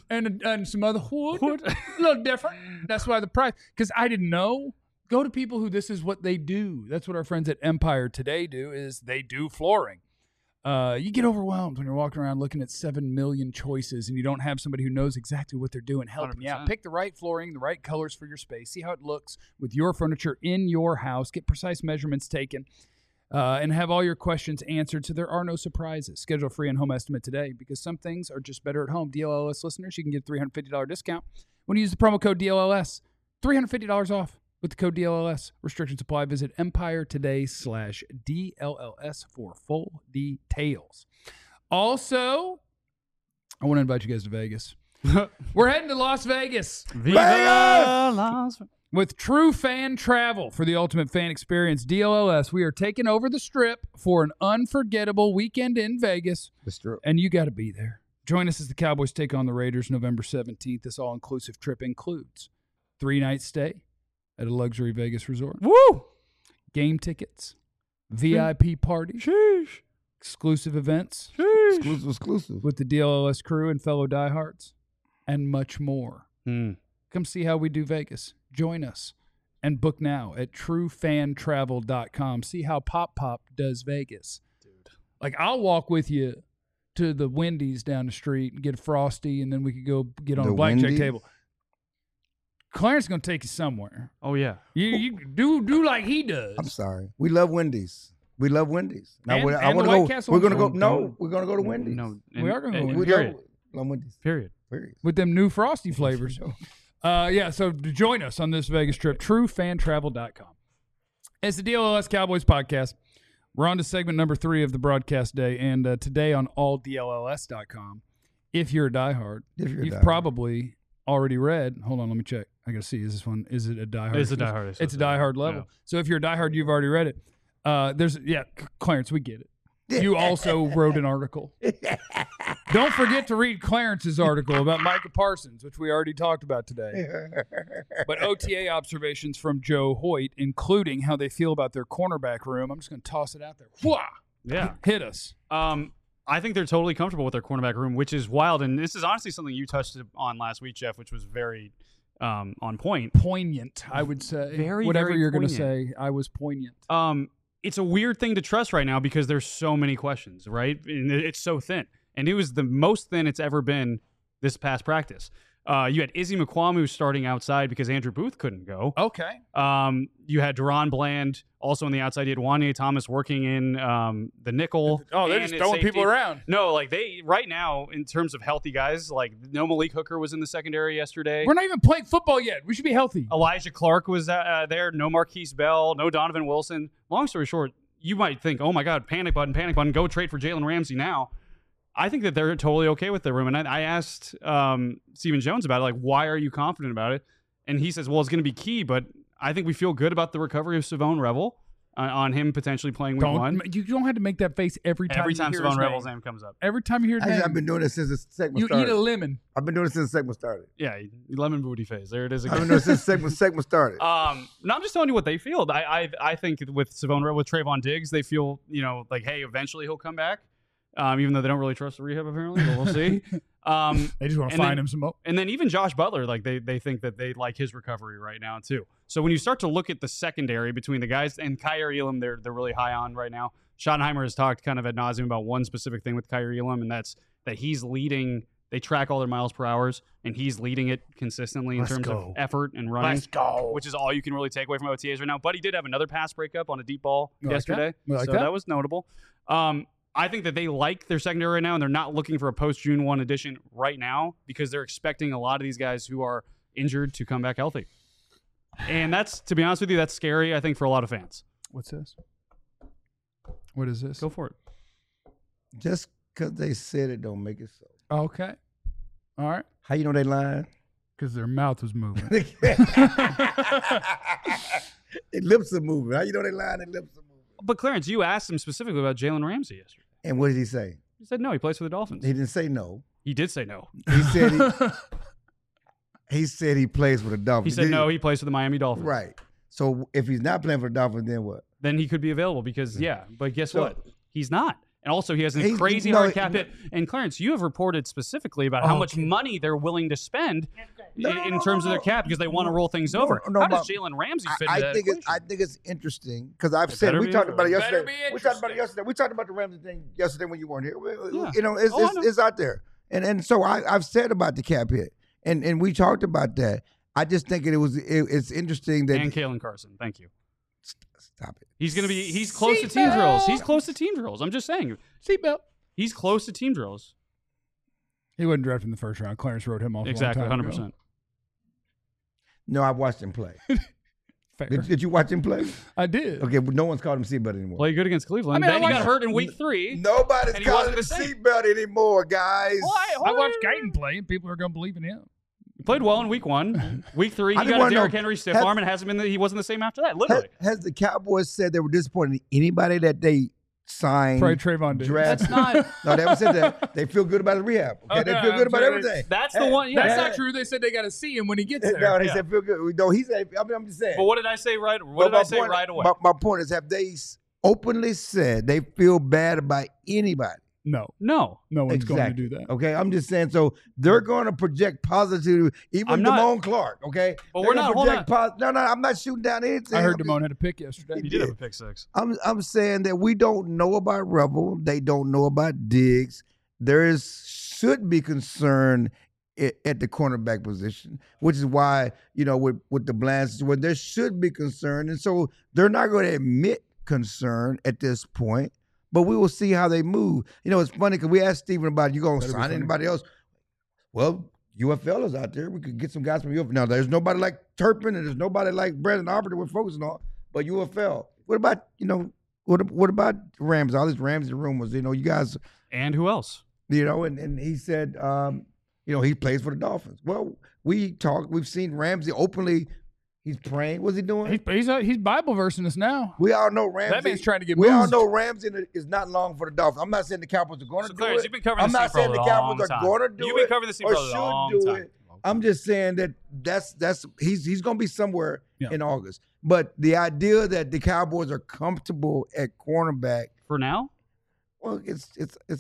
and some other wood. A little different. That's why the price, because I didn't know. Go to people who this is what they do. That's what our friends at Empire Today do, is they do flooring. You get overwhelmed when you're walking around looking at 7 million choices and you don't have somebody who knows exactly what they're doing helping 100%. You out. Pick the right flooring, the right colors for your space. See how it looks with your furniture in your house. Get precise measurements taken and have all your questions answered so there are no surprises. Schedule a free and home estimate today because some things are just better at home. DLLS listeners, you can get a $350 discount when you use the promo code DLLS. $350 off. With the code DLLS, restrictions apply. Visit EmpireToday/DLLS for full details. Also, I want to invite you guys to Vegas. We're heading to Las Vegas. Vegas! With True Fan Travel for the ultimate fan experience, DLLS, we are taking over the Strip for an unforgettable weekend in Vegas. The Strip. And you got to be there. Join us as the Cowboys take on the Raiders November 17th. This all-inclusive trip includes 3-night stay at a luxury Vegas resort. Woo! Game tickets, VIP parties, sheesh. Exclusive events, sheesh. Exclusive with the DLLS crew and fellow diehards, and much more. Come see how we do Vegas. Join us and book now at truefantravel.com. See how Pop does Vegas. Dude. Like, I'll walk with you to the Wendy's down the street and get a Frosty, and then we could go get on a blackjack table. Clarence is going to take you somewhere. Oh, yeah. You do like he does. I'm sorry. We love Wendy's. We love Wendy's. Now, I want to go. We're going to go. No, we're going to go to Wendy's. No, we are going to go to Wendy's. Period. Love Wendy's. Period. With them new Frosty flavors. So join us on this Vegas trip. TrueFanTravel.com. It's the DLLS Cowboys podcast. We're on to segment number 3 of the broadcast day, and today on alldlls.com. If you're a diehard, you've probably already read. Hold on, let me check. I got to see. Is this one? Is it a diehard? It's a diehard. It's a diehard level. Yeah. So if you're a diehard, you've already read it. Clarence, we get it. You also wrote an article. Don't forget to read Clarence's article about Micah Parsons, which we already talked about today. But OTA observations from Joe Hoyt, including how they feel about their cornerback room. I'm just going to toss it out there. Whoa! Yeah. Hit us. I think they're totally comfortable with their cornerback room, which is wild. And this is honestly something you touched on last week, Jeff, which was very on point. Poignant, I would say. Whatever very you're going to poignant. say, I was poignant. It's a weird thing to trust right now because there's so many questions, right? And it's so thin. And it was the most thin it's ever been this past practice. You had Izzy McQuamu starting outside because Andrew Booth couldn't go. Okay. You had Deron Bland also on the outside. You had Wanye Thomas working in the nickel. Oh, they're and just at throwing safety. people around. No, like right now, in terms of healthy guys, like no Malik Hooker was in the secondary yesterday. We're not even playing football yet. We should be healthy. Elijah Clark was there. No Marquise Bell. No Donovan Wilson. Long story short, you might think, oh my God, panic button, go trade for Jalen Ramsey now. I think that they're totally okay with their room. And I asked Stephen Jones about it, like, why are you confident about it? And he says, well, it's going to be key, but I think we feel good about the recovery of Savone Revel on him potentially playing week one. You don't have to make that face every time Savone Revel's name comes up. Every time you hear his name. I've been doing this since the segment you started. eat a lemon. I've been doing it since the segment started. Yeah, lemon booty face. There it is again. I've been doing it since the segment started. No, I'm just telling you what they feel. I think with Savone Revel, with Trayvon Diggs, they feel, like, hey, eventually he'll come back. Even though they don't really trust the rehab, apparently, but we'll see. They just want to find him some more. And then even Josh Butler, like they think that they like his recovery right now too. So when you start to look at the secondary between the guys and Kyer Elam, they're really high on right now. Schottenheimer has talked kind of ad nauseum about one specific thing with Kyer Elam, and that's that he's leading. They track all their miles per hours, and he's leading it consistently in terms of effort and running. Let's go. Which is all you can really take away from OTAs right now. But he did have another pass breakup on a deep ball yesterday, so that was notable. I think that they like their secondary right now, and they're not looking for a post-June 1 addition right now because they're expecting a lot of these guys who are injured to come back healthy. And that's, to be honest with you, that's scary, I think, for a lot of fans. What's this? What is this? Go for it. Just because they said it don't make it so. Okay. All right. How you know they lying? Because their mouth was moving. Their lips are moving. How you know they lying? Their lips are moving. But, Clarence, you asked him specifically about Jalen Ramsey yesterday. And what did he say? He said no, he plays for the Dolphins. He didn't say no. He did say no. He said he said he plays for the Dolphins. He said no, he plays for the Miami Dolphins. Right. So if he's not playing for the Dolphins, then what? Then he could be available because, but guess what? He's not. And also, he has a crazy hard cap hit. And, Clarence, you have reported specifically about how much money they're willing to spend in terms of their cap because they want to roll things over. How does Jalen Ramsey fit into that equation? I think it's interesting because I've said we talked about it yesterday. We talked about the Ramsey thing yesterday when you weren't here. It's out there. And so I've said about the cap hit. And we talked about that. I just think it's interesting that. And Kalen Carson. Thank you. Stop it. He's close to team drills. He's close to team drills. I'm just saying. Seatbelt. He's close to team drills. He wasn't drafted in the first round. Clarence wrote him off. Exactly, 100%. Ago. No, I watched him play. Fair. Did you watch him play? I did. Okay, but no one's called him seatbelt anymore. Played good against Cleveland. Then he got hurt in week 3. Nobody's calling him seatbelt anymore, guys. I watched Guyton play, and people are going to believe in him. He played well in week 1. Week 3, he got a Derrick Henry stiff arm and hasn't been. He wasn't the same after that. Literally. Has the Cowboys said they were disappointed in anybody that they signed? Probably Trayvon Diggs. That's not. No, they haven't said that. They feel good about his rehab. Okay, they feel good about everything. That's the one. Yeah, that's not true. They said they got to see him when he gets there. No, they said feel good. No, he said. I'm just saying. But what did I say right? What did I say right away? My point is, have they openly said they feel bad about anybody? No one's going to do that. Okay, I'm just saying. So they're going to project positive, even Damone Clark. Okay, but we're not. No, I'm not shooting down anything. I heard Damone had a pick yesterday. He did have a pick 6. I'm saying that we don't know about Revel. They don't know about Diggs. Should be concern at the cornerback position, which is why with the Blands, where there should be concern, and so they're not going to admit concern at this point. But we will see how they move. It's funny because we asked Stephen about, you going to sign anybody else? Well, UFL is out there. We could get some guys from UFL. Now, there's nobody like Turpin and there's nobody like Brandon Arbor that we're focusing on, but UFL. What about, what about Rams? All these Ramsey rumors, you guys. And who else? And he said, he plays for the Dolphins. Well, we've seen Ramsey openly. He's praying. What's he doing? He's Bible versing us now. We all know Ramsey. That means trying to get We all moved. know Ramsey is not long for the Dolphins. I'm not saying the Cowboys are going to do it. You've been covering I'm not saying the Cowboys are going to do it. You've been covering this team for a long time. I'm just saying that's he's going to be somewhere in August. But the idea that the Cowboys are comfortable at cornerback for now, well, it's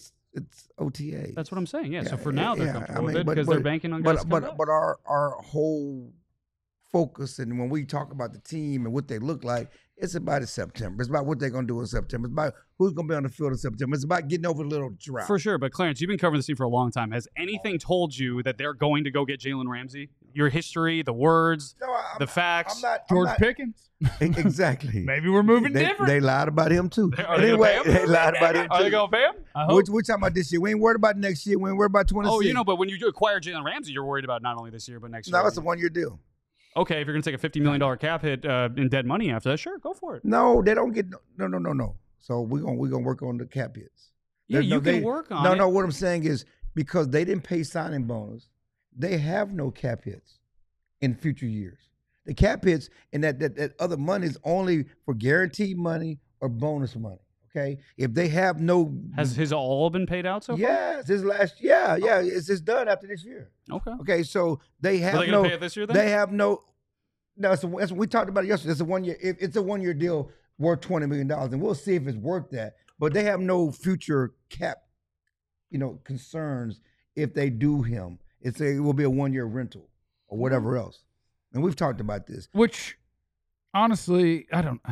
OTA. That's what I'm saying. Yeah. So for now they're comfortable with it because they're banking on guys. But our whole focus, and when we talk about the team and what they look like, It's about September. It's about what they're going to do in September. It's about who's going to be on the field in September. It's about getting over a little drought. For sure. But Clarence, you've been covering this team for a long time. Has anything told you that they're going to go get Jalen Ramsey? Your history, the words, the facts. George Pickens. Exactly. Maybe we're moving different. They lied about him too. Anyway, they lied about him too. Are they going to pay him? We're talking about this year. We ain't worried about next year. We ain't worried about 26. Oh, but when you acquire Jalen Ramsey, you're worried about not only this year but next year. No, it's a one-year deal. Okay, if you're going to take a $50 million cap hit in dead money after that, sure, go for it. No, they don't get no. So we're gonna work on the cap hits. Yeah, you can work on it. No, what I'm saying is because they didn't pay signing bonus, they have no cap hits in future years. The cap hits and that other money is only for guaranteed money or bonus money. Okay, if they have no, has his all been paid out so far? Yes, his last, it's done after this year. Okay, so they have Are they gonna pay it this year then? They have no. No, that's we talked about it yesterday. It's a 1 year. It's a 1 year deal worth $20 million, and we'll see if it's worth that. But they have no future cap, concerns if they do him. It will be a 1 year rental or whatever else. And we've talked about this. Which, honestly, I don't.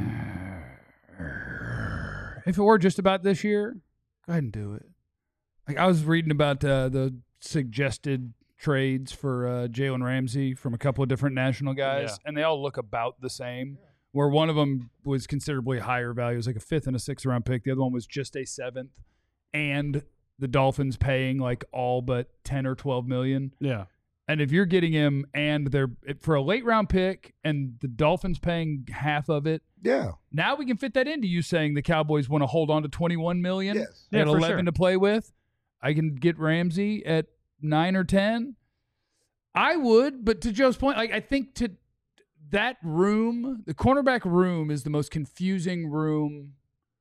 If it were just about this year, go ahead and do it. Like I was reading about the suggested trades for Jalen Ramsey from a couple of different national guys, and they all look about the same. Where one of them was considerably higher value, it was like a 5th and a 6th round pick. The other one was just a 7th, and the Dolphins paying like all but 10 or 12 million. Yeah. And if you're getting him and they're for a late round pick and the Dolphins paying half of it, now we can fit that into you saying the Cowboys want to hold on to 21 million. Yes. They got 11 to play with. I can get Ramsey at 9 or 10. I would, but to Joe's point, I think to that room, the cornerback room is the most confusing room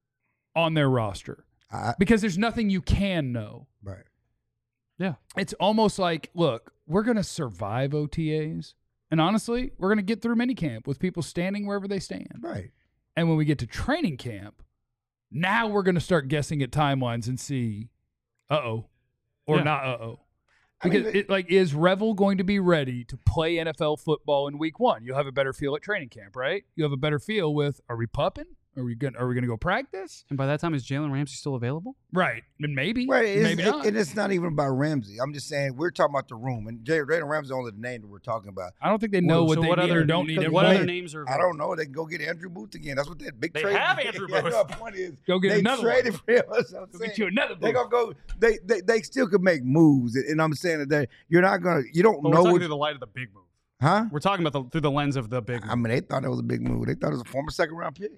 on their roster because there's nothing you can know. Right. Yeah. It's almost like, look, we're going to survive OTAs. And honestly, we're going to get through minicamp with people standing wherever they stand. Right. And when we get to training camp, now we're going to start guessing at timelines and see, or not Because is Revel going to be ready to play NFL football in week 1? You'll have a better feel at training camp, right? You have a better feel with, are we pupping? Are we going to go practice? And by that time, is Jalen Ramsey still available? Right. And maybe. Right. Maybe not. And it's not even about Ramsey. I'm just saying we're talking about the room. And Jalen Ramsey is only the name that we're talking about. I don't think they know what they need or don't need. What other names are available? I don't know. They can go get Andrew Booth again. That's what that big trade. They have Andrew Booth. The point is, go get another traded for him. Go get you another Booth. They're going to go. They still could make moves. And I'm saying that you're not going to, you don't know. We're talking through the light of the big move. Huh? We're talking about through the lens of the big move. I mean, they thought it was a big move. They thought it was a former 2nd round pick.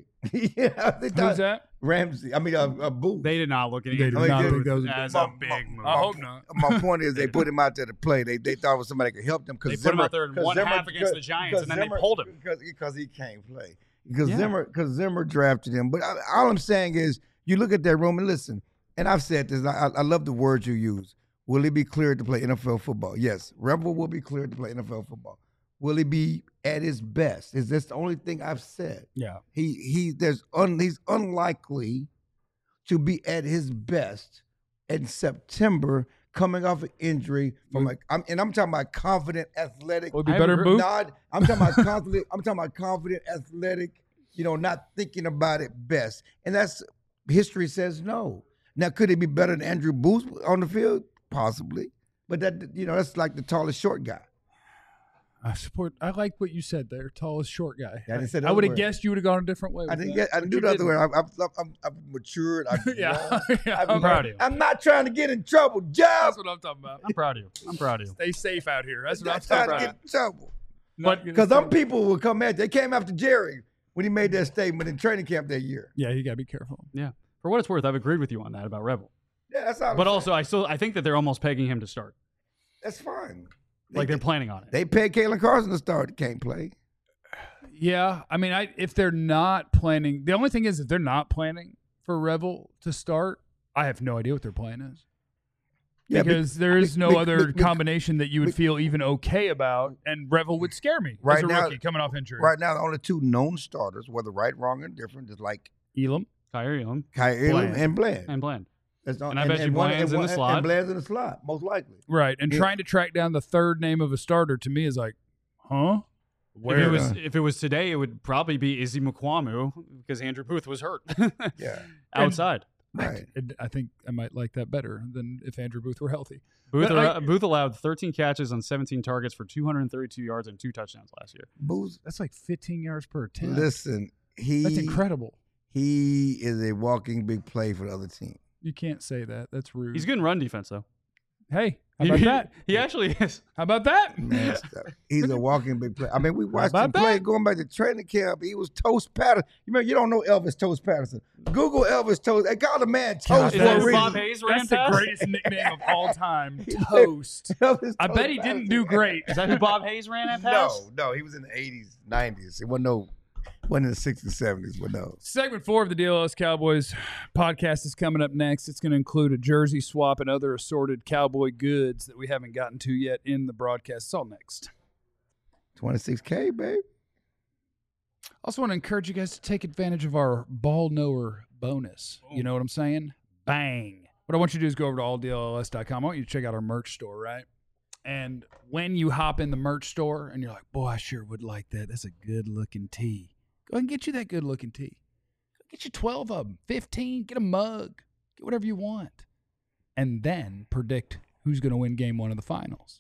Who's that? Ramsey. I mean, Booth. They did not look at it as a big move. I hope not. My point is they put him out there to play. They thought it was somebody that could help them. They put him out there in one half against the Giants, and then they pulled him. Because he can't play. Because Zimmer drafted him. But all I'm saying is you look at that room and listen, and I've said this, I love the words you use. Will he be cleared to play NFL football? Yes. Revel will be cleared to play NFL football. Will he be at his best? Is this the only thing I've said? Yeah. He's unlikely to be at his best in September, coming off an injury from I'm talking about confident, athletic. Will be better Booth? I'm talking about confident. I'm talking about confident, athletic. Not thinking about it best, and that's history says no. Now, could he be better than Andrew Booth on the field? Possibly, but that's like the tallest short guy. I like what you said there. Tallest short guy. I would have guessed you would have gone a different way. I didn't do the other way. I've matured. I'm proud of you. I'm not trying to get in trouble, Jeff. That's what I'm talking about. I'm proud of you. Stay safe out here. That's what I'm trying talking to about. get in trouble. Because some people will come at. They came after Jerry when he made that statement in training camp that year. Yeah, you gotta be careful. Yeah. For what it's worth, I've agreed with you on that about Revel. Yeah, that's all. But also, I think that they're almost pegging him to start. That's fine. They're planning on it. They paid Kalen Carson to start. Can't play. Yeah, I mean, if they're not planning, the only thing is if they're not planning for Revel to start, I have no idea what their plan is. Yeah, because there is no other combination that you would feel even okay about, and Revel would scare me as a rookie coming off injury. Right now, the only 2 known starters, whether right, wrong, or different, is like Elam, Kyer Elam, and Bland. And I bet you Bland's in the slot. And Bland's in the slot, most likely. Right, and trying to track down the third name of a starter to me is like, huh? If it was today, it would probably be Izzy Mukuamu because Andrew Booth was hurt. Yeah. Outside. Right. I think I might like that better than if Andrew Booth were healthy. Booth allowed 13 catches on 17 targets for 232 yards and 2 touchdowns last year. Booth, that's like 15 yards per attempt. Listen, that's incredible. He is a walking big play for the other team. You can't say that. That's rude. He's good in run defense, though. Hey, how about that? He actually is. How about that? Man, he's a walking big play. I mean, we watched him play going back to training camp. He was Toast Patterson. You don't know Elvis Toast Patterson. Google Elvis Toast. They call the man Toast for a reason. Bob Hayes ran That's the greatest nickname of all time. Toast. I bet he didn't do great. Is that who Bob Hayes ran at pass? No, he was in the 80s, 90s. It wasn't in the 60s, 70s, but no. Segment 4 of the DLS Cowboys podcast is coming up next. It's going to include a jersey swap and other assorted cowboy goods that we haven't gotten to yet in the broadcast. It's all next. 26K, babe. Also want to encourage you guys to take advantage of our ball knower bonus. You know what I'm saying? Bang. What I want you to do is go over to alldls.com. I want you to check out our merch store, right? And when you hop in the merch store and you're like, boy, I sure would like that. That's a good-looking tee. Go ahead and get you that good-looking tee. Get you 12 of them, 15. Get a mug. Get whatever you want. And then predict who's going to win game 1 of the finals.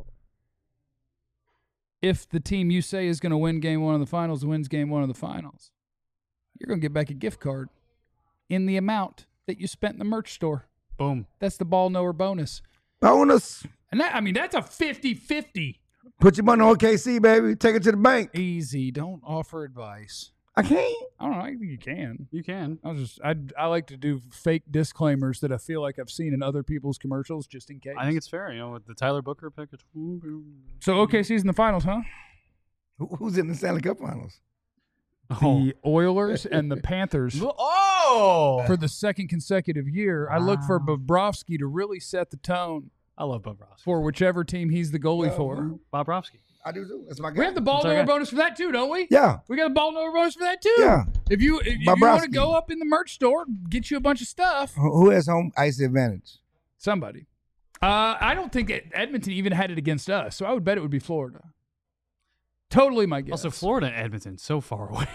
If the team you say is going to win game 1 of the finals wins game 1 of the finals, you're going to get back a gift card in the amount that you spent in the merch store. Boom. That's the ball knower bonus. Bonus. And that's a 50-50. Put your money on OKC, baby. Take it to the bank. Easy. Don't offer advice. I can't. I don't know. I think you can. You can. I like to do fake disclaimers that I feel like I've seen in other people's commercials just in case. I think it's fair. With the Tyler Booker pick. So OKC's in the finals, huh? Who's in the Stanley Cup finals? The Oilers and the Panthers. For the second consecutive year. Wow. I look for Bobrovsky to really set the tone. I love Bobrovsky. For whichever team he's the goalie for. Bobrovsky. I do too. That's my guy. We have the ball knower bonus for that too, don't we? Yeah. We got a ball knower bonus for that too. Yeah. If you want to go up in the merch store, get you a bunch of stuff. Who has home ice advantage? Somebody. I don't think Edmonton even had it against us, so I would bet it would be Florida. Totally my guess. Also, Florida and Edmonton, so far away.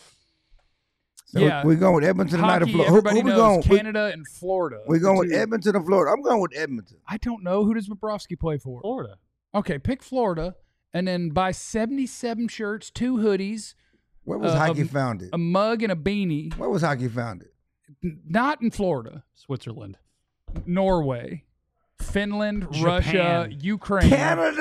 So yeah. We're going with Edmonton tonight or Florida. Everybody knows Canada and Florida. We're going with Edmonton or Florida. I'm going with Edmonton. I don't know. Who does Bobrovsky play for? Florida. Okay, pick Florida and then buy 77 shirts, 2 hoodies. Where was hockey founded? A mug and a beanie. Where was hockey founded? Not in Florida. Switzerland. Norway. Finland, Japan. Russia, Ukraine.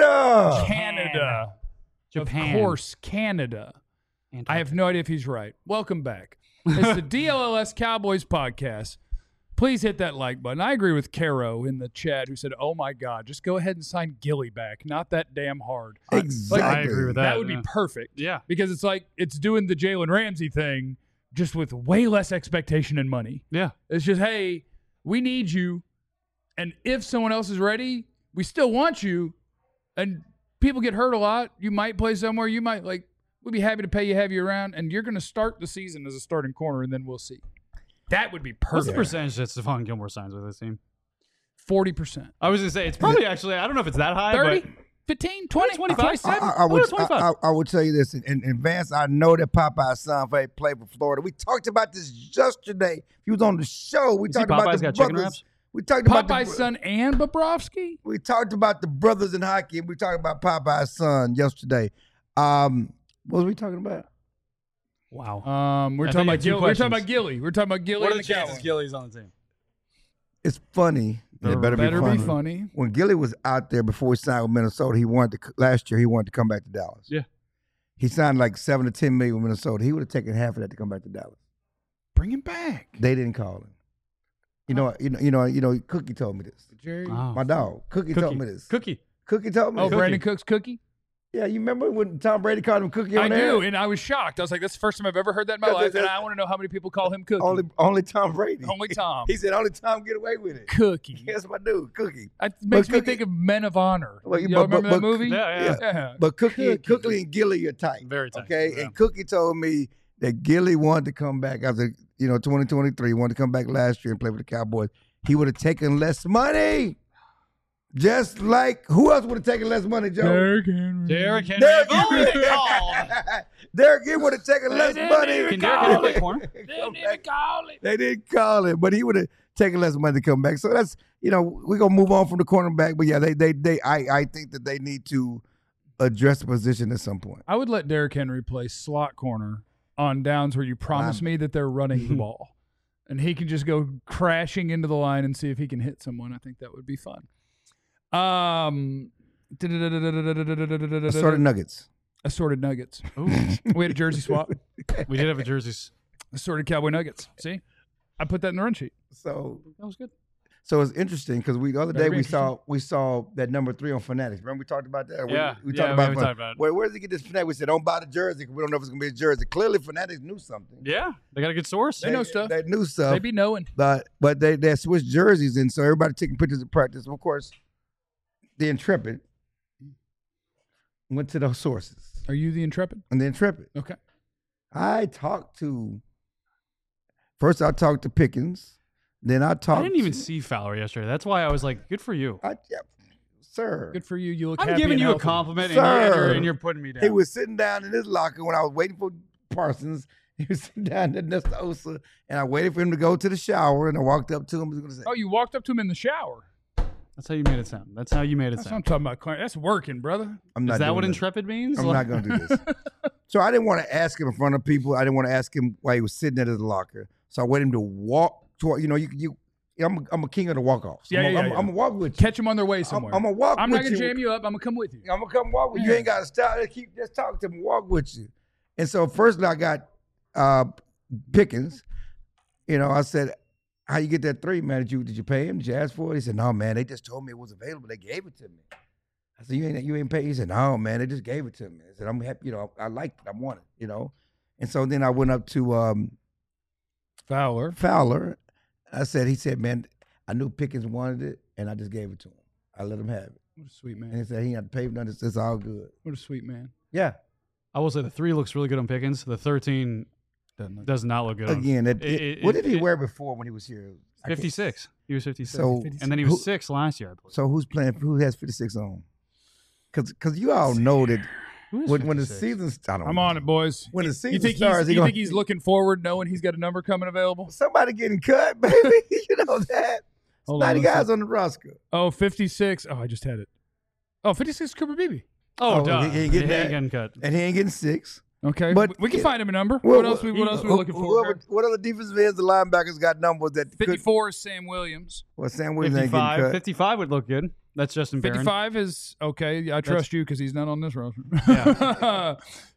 Canada. Japan. Of course, Canada. I have no idea if he's right. Welcome back. It's the DLLS Cowboys podcast. Please hit that like button. I agree with Caro in the chat who said, oh, my God, just go ahead and sign Gilly back. Not that damn hard. Exactly. I agree with that. That would be perfect. Yeah. Because it's like it's doing the Jalen Ramsey thing just with way less expectation and money. Yeah. It's just, hey, we need you. And if someone else is ready, we still want you. And people get hurt a lot. You might play somewhere. You might, we'd be happy to pay you, have you around. And you're going to start the season as a starting corner, and then we'll see. That would be perfect. What's the percentage that Stephon Gilmore signs with this team? 40%. I was going to say, it's probably actually, I don't know if it's that high. 30, but 15, 20, 25. 27. I would tell you this. In Vance, I know that Popeye's son played for Florida. We talked about this yesterday. He was on the show. We talked about Popeye's the got chicken brothers. wraps? We talked Popeye's son and Bobrovsky? We talked about the brothers in hockey, and we talked about Popeye's son yesterday. What was we talking about? Wow. We're talking about Gilly. We're talking about Gilly. We're talking about Gilly. What are and the chances Gilly's on the team? It's funny. It better be funny. When Gilly was out there before he signed with Minnesota, last year he wanted to come back to Dallas. Yeah. He signed like $7 to $10 million with Minnesota. He would have taken half of that to come back to Dallas. Bring him back. They didn't call him. You know. Cookie told me this. Jerry, my dog. Cookie told me this. Cookie told me. Oh, this. Brandon Cook's Cookie. Yeah, you remember when Tom Brady called him Cookie on there? I do, and I was shocked. I was like, "That's the first time I've ever heard that in my life," and I want to know how many people call him Cookie. Only Tom Brady. Only Tom. He said only Tom get away with it. Cookie. That's my dude, Cookie. It makes me think of Men of Honor. You remember that movie? Yeah. But Cookie and Gilly are tight. Very tight. Okay, yeah. and Cookie told me that Gilly wanted to come back after 2023. Wanted to come back last year and play for the Cowboys. He would have taken less money. Just like who else would have taken less money, Joe? Derrick Henry. Derrick Henry. Derrick If only Henry. they called. Derrick Henry would have taken less money. Can Derrick Henry play corner? They didn't call it, but he would have taken less money to come back. So that's, we're gonna move on from the cornerback. But yeah, I think that they need to address the position at some point. I would let Derrick Henry play slot corner on downs where you promise me that they're running the ball. And he can just go crashing into the line and see if he can hit someone. I think that would be fun. Assorted Nuggets. Assorted Nuggets. Ooh. We had a jersey swap. We did have a jerseys. Assorted Cowboy Nuggets. See? I put that in the run sheet. So That was good. So it's interesting because the other day That'd be we saw that number 3 on Fanatics. Remember we talked about that? Yeah. We Yeah, talked we about talked about it. where does he get this Fanatics? We said don't buy the jersey because we don't know if it's gonna be a jersey. Clearly Fanatics knew something. Yeah, they got a good source. They know stuff. They knew stuff. They be knowing. But they switched jerseys, and so everybody taking pictures of practice. And of course, the Intrepid went to those sources. Are you the Intrepid? And the Intrepid. Okay. I talked to Pickens. Then I talked. I didn't even see Fowler yesterday. That's why I was like, good for you. Sir. Good for you. You look I'm happy giving and you a healthy. compliment, Sir. and you're putting me down. He was sitting down in his locker when I was waiting for Parsons. He was sitting down next to Osa, and I waited for him to go to the shower, and I walked up to him. I was gonna say, Oh, you walked up to him in the shower. That's how you made it sound. That's how you made it That's what I'm sound. talking about, Clarence. That's working, brother. I'm not Is that doing what this. intrepid means? I'm not going to do this. So I didn't want to ask him in front of people. I didn't want to ask him while he was sitting at his locker. So I waited him to walk toward, I'm a king of the walk-offs. I'm going to walk with you. Catch them on their way somewhere. I'm going to walk I'm with not going you. to jam you up. I'm going to come with you. I'm going to come walk with you. You ain't got to stop. Just talk to him, walk with you. And so first I got Pickens. I said, how you get that 3, man? Did you pay him? Did you ask for it? He said, no, man. They just told me it was available. They gave it to me. I said, you ain't paid? He said, no, man. They just gave it to me. I said, I'm happy. I liked it. I want it. And so then I went up to Fowler. He said, man, I knew Pickens wanted it, and I just gave it to him. I let him have it. What a sweet man. And he said he had to pay for nothing. It's all good. What a sweet man. Yeah. I will say the 3 looks really good on Pickens. The 13 does not look good. Again, what did he wear before when he was here? 56. He was 56. So- and then he was 6 last year, I believe. So who has 56 on? Because you all know that Who is when the 56? season starts. I'm on it, boys. When the You season think starts, you think he's looking forward knowing he's got a number coming available? somebody getting cut, baby. You know that. Hold on, 90 let's guys see. on the roster. Oh, 56. Oh, I just had it. Oh, 56 Cooper Beebe. Oh, Oh, duh. he ain't getting that. getting cut. And he ain't getting 6. Okay, But- we can find him a number. Well, what else we looking for? What other defensive ends, the linebackers got numbers that could? 54 is Sam Williams. Well, Sam Williams ain't getting 55. cut. 55 would look good. That's Justin Barron. 55 is okay. I trust you because he's not on this roster. Yeah.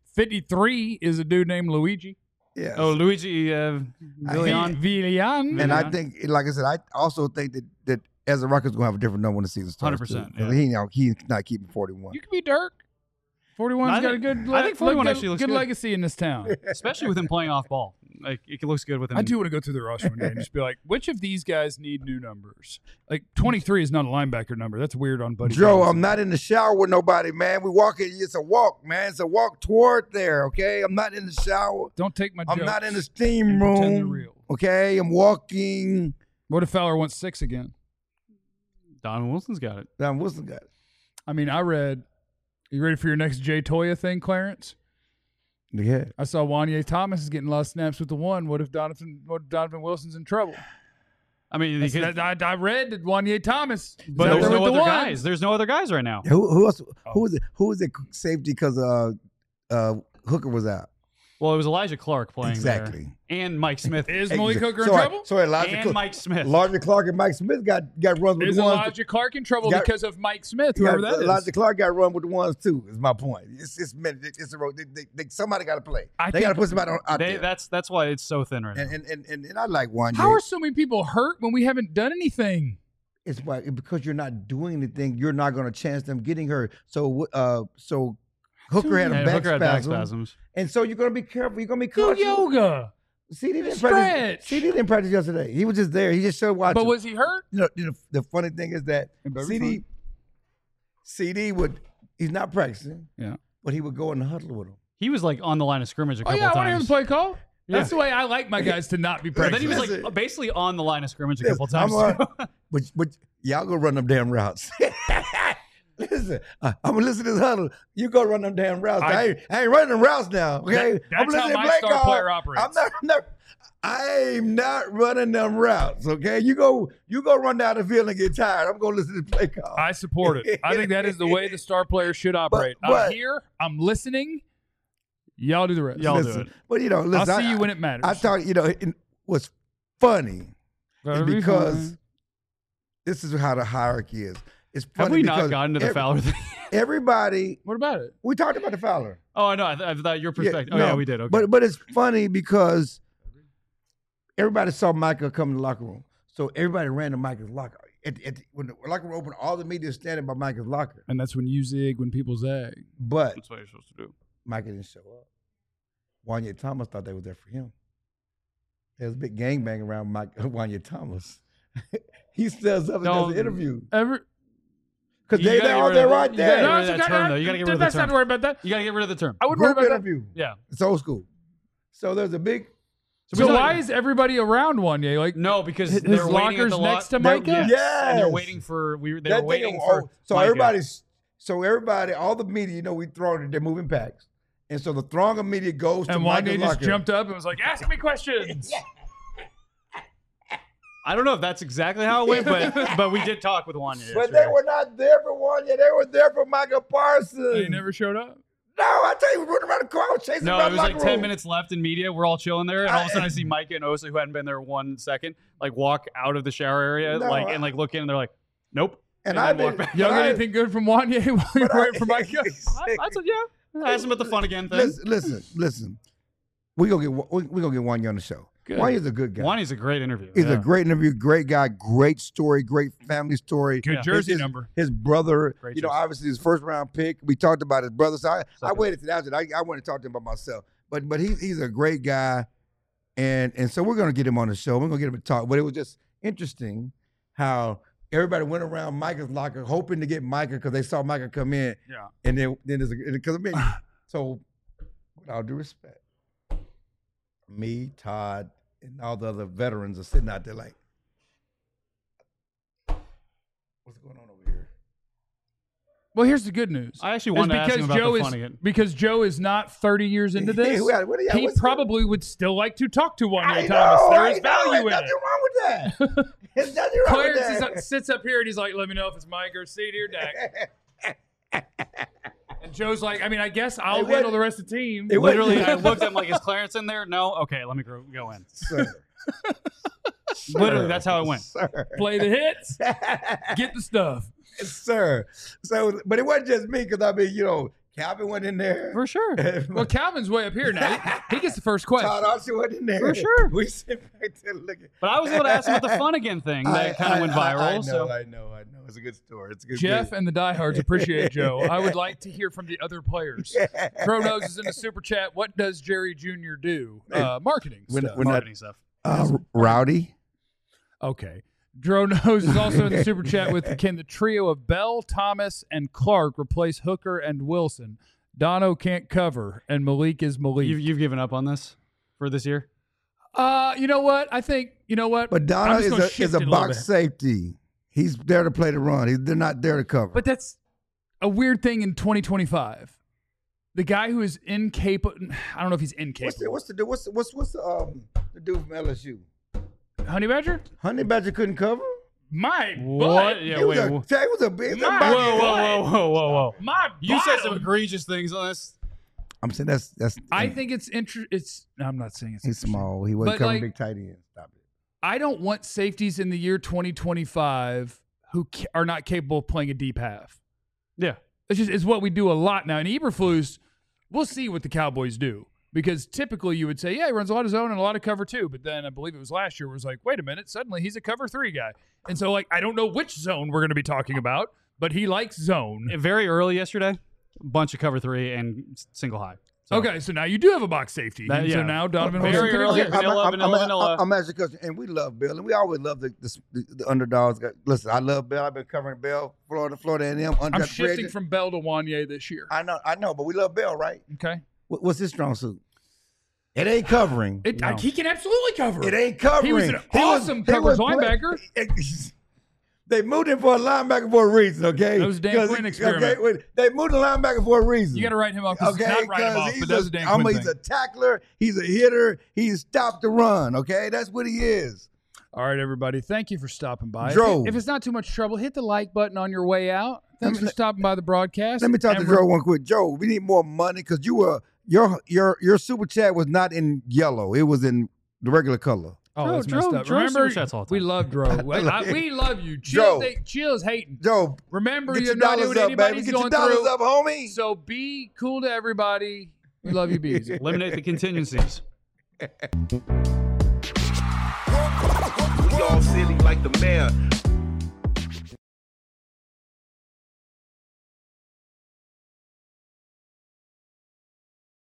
53 is a dude named Luigi Yeah. Oh, Luigi Villian. Villian. And I Yeah. think, like I said, I also think that as the Rockets going to have a different number when the season starts. 100%, too. He's not keeping 41. You could be Dirk. 41's I got a think- good. I think 41 good, actually looks good good. legacy in this town. Especially with him playing off ball. Like, it looks good with him. I do want to go through the roster one day and just be like, which of these guys need new numbers? Like 23 is not a linebacker number. That's weird on Buddy. Joe, Johnson. I'm not in the shower with nobody, man. We walking. It's a walk, man. It's a walk toward there, okay? I'm not in the shower. Don't take my I'm jokes not in the steam and pretend they're room, real. okay? I'm walking. What if Fowler wants 6 again? Donovan Wilson's got it. Now, Wilson got it. I mean, I read. You ready for your next Jay Toya thing, Clarence? Yeah. I saw Wanye Thomas is getting a lot of snaps with the 1. What if Donovan Wilson's in trouble? I mean, I read that Wanye Thomas, but is out there's there no with the other 1. guys. There's no other guys right now. Who else? Oh. Who was it safety because Hooker was out? Well, it was Elijah Clark playing Exactly. there. And Mike Smith. Is Malik Hooker in So trouble? So Elijah and Clark, Mike Smith. Elijah Clark and Mike Smith got runs with Is the ones. Elijah Clark in trouble Got- because of Mike Smith, whoever that is? Elijah Clark got run with the ones too. Is my point. It's a road. Somebody got to play. They got to put somebody out there. That's why it's so thin right now. And I like Wanye. How are so many people hurt when we haven't done anything? It's why because you're not doing anything, you're not going to chance them getting hurt. So Hooker had a And back Hooker had back spasm, spasms. and so you're going to be careful. You're going to be Do cautious. yoga. CD didn't Stretch. practice. CD didn't practice yesterday. He was just there. He just showed watching. But was he hurt? The funny thing is that It better be CD he's not practicing. Yeah. But he would go in the huddle with him. He was like on the line of scrimmage a Oh, couple yeah, I want to hear the times. play call. That's the way I like my guys to not be But then he practicing. was like basically on the line of scrimmage a Yes, couple times. but y'all go run them damn routes. Listen, I'm gonna listen to this huddle. You go run them damn routes. I ain't running them routes now. Okay, that's how my star player operates. I'm not running them routes. Okay, you go run down the field and get tired. I'm gonna listen to the play call. I support it. I think that is the way the star player should operate. I'm here. I'm listening. Y'all do the rest. Y'all do it. But listen, I'll see you when it matters. I thought it was funny because this is how the hierarchy is. It's funny. Have we not gotten to the Fowler thing? Everybody. What about it? We talked about the Fowler. Oh, I know. I thought your perspective. Yeah, yeah, we did. Okay. But it's funny because everybody saw Micah come in the locker room, so everybody ran to Micah's locker. When the locker room opened, all the media standing by Micah's locker, and that's when you zig when people zag. But that's what you're supposed to do. Micah didn't show up. Wanya Thomas thought they was there for him. There was a big gangbang around Wanya Thomas. He stands up and does an interview. Because they're all there right there. No, you got to get rid of the term. Let's not worry about that. You got to get rid of the term. I wouldn't worry about interview. that. Yeah. It's old school. So there's a big... So why is everybody around Wanya? Like, no, because his they're locker's next to Micah? Yes. And they're waiting for... They were waiting for So Micah. everybody, all the media, we throw it, they're moving packs. And so the throng of media goes to Micah's Wanya locker. just jumped up and was like, ask me questions. I don't know if that's exactly how it went, but we did talk with Wanya. But they were not there for Wanya. They were there for Micah Parsons. He never showed up? No, I tell you, we running around the car, chasing around the it was locker like 10 room. minutes left in media. We're all chilling there, and all of a sudden I see Micah and Osa, who hadn't been there 1 second, walk out of the shower area, and look in, and they're like, "Nope." And then walk back. Y'all got anything good from Wanya while you're waiting for Micah? I said, yeah. I asked him about the fun again thing. Listen. We gonna get Wanya on the show. Wanya's a good guy. Wanya's a great interview. He's a great interview, great guy, great story, great family story. Good jersey number. His brother, great obviously his first round pick. We talked about his brother. So I waited to that. I wanted to talk to him about myself. But he's a great guy, and so we're gonna get him on the show. We're gonna get him to talk. But it was just interesting how everybody went around Micah's locker hoping to get Micah because they saw Micah come in. Yeah. And then there's so with all due respect, me, Todd, and all the other veterans are sitting out there like, what's going on over here? Well, here's the good news. I actually wanted to ask him about the fun again. Because Joe is not 30 years into this, he probably would still like to talk to Wanya Thomas. There is value in it. Nothing wrong with that. There's nothing wrong with that. Clarence sits up here and he's like, let me know if it's Mike or CD or Dak. And Joe's like, I guess I'll handle the rest of the team. Literally, I looked at him like, is Clarence in there? No? Okay, let me go in. Sir. Literally, that's how it went. Sir. Play the hits, get the stuff. Sir. So, but it wasn't just me because, Calvin went in there. For sure. Well, Calvin's way up here now. He gets the first question. Todd also went in there. For sure. We sit back there looking. But I was able to ask him about the fun again thing that kind of went viral. I know. It's a good story. It's a good Jeff thing. and the diehards appreciate Joe. I would like to hear from the other players. Crow Nose is in the super chat. What does Jerry Jr. do? Marketing stuff. Marketing stuff. Rowdy. Okay. Dro Nose is also in the super chat with, can the trio of Bell, Thomas, and Clark replace Hooker and Wilson? Dono can't cover, and Malik is Malik. You've given up on this for this year? You know what? I think, But Dono is a box safety. He's there to play the run. They're not there to cover. But that's a weird thing in 2025. The guy who is incapable, I don't know if he's incapable. What's the dude from LSU? Honey Badger? Honey Badger couldn't cover? My what? butt. Yeah, he was a big. Whoa. My You bottom. said some egregious things on this. I'm saying that's. I think it's I'm not saying it's. He's small. He wasn't covering big tight ends. Stop it. I don't want safeties in the year 2025 who are not capable of playing a deep half. Yeah, it's what we do a lot now. And Eberflus, we'll see what the Cowboys do. Because typically you would say, yeah, he runs a lot of zone and a lot of cover too. But then I believe it was last year where it was like, wait a minute, suddenly he's a cover 3 guy. And so, I don't know which zone we're going to be talking about, but he likes zone. Very early yesterday, a bunch of cover 3 and single high. So. Okay, so now you do have a box safety. So now Donovan very early. Vanilla. I'm asking because, and we love Bill, and we always love the underdogs. Listen, I love Bill. I've been covering Bill, Florida A&M. I'm shifting from Bell to Wanya this year. I know, but we love Bill, right? Okay. What's his strong suit? It ain't covering. He can absolutely cover. It ain't covering. He was an awesome coverage linebacker. They moved him for a linebacker for a reason, okay? That was a Dan Quinn experiment. Okay, they moved the linebacker for a reason. You got to write him off. Okay, not write him off, but that's a Dan Quinn He's thing. a tackler. He's a hitter. He's stopped the run, okay? That's what he is. All right, everybody. Thank you for stopping by. Dro. If it's not too much trouble, hit the like button on your way out. Thanks for stopping by the broadcast. Let me talk to Joe one quick. Joe, we need more money because your super chat was not in yellow. It was in the regular color. Oh, that's messed up. Remember, we love Dro. We love you. Chill's hating. Joe, remember, get you're your not dollars doing up, anybody's baby. Get going your dollars through. up, homie. So be cool to everybody. We love you, bees. Eliminate the contingencies. We all silly like the mayor.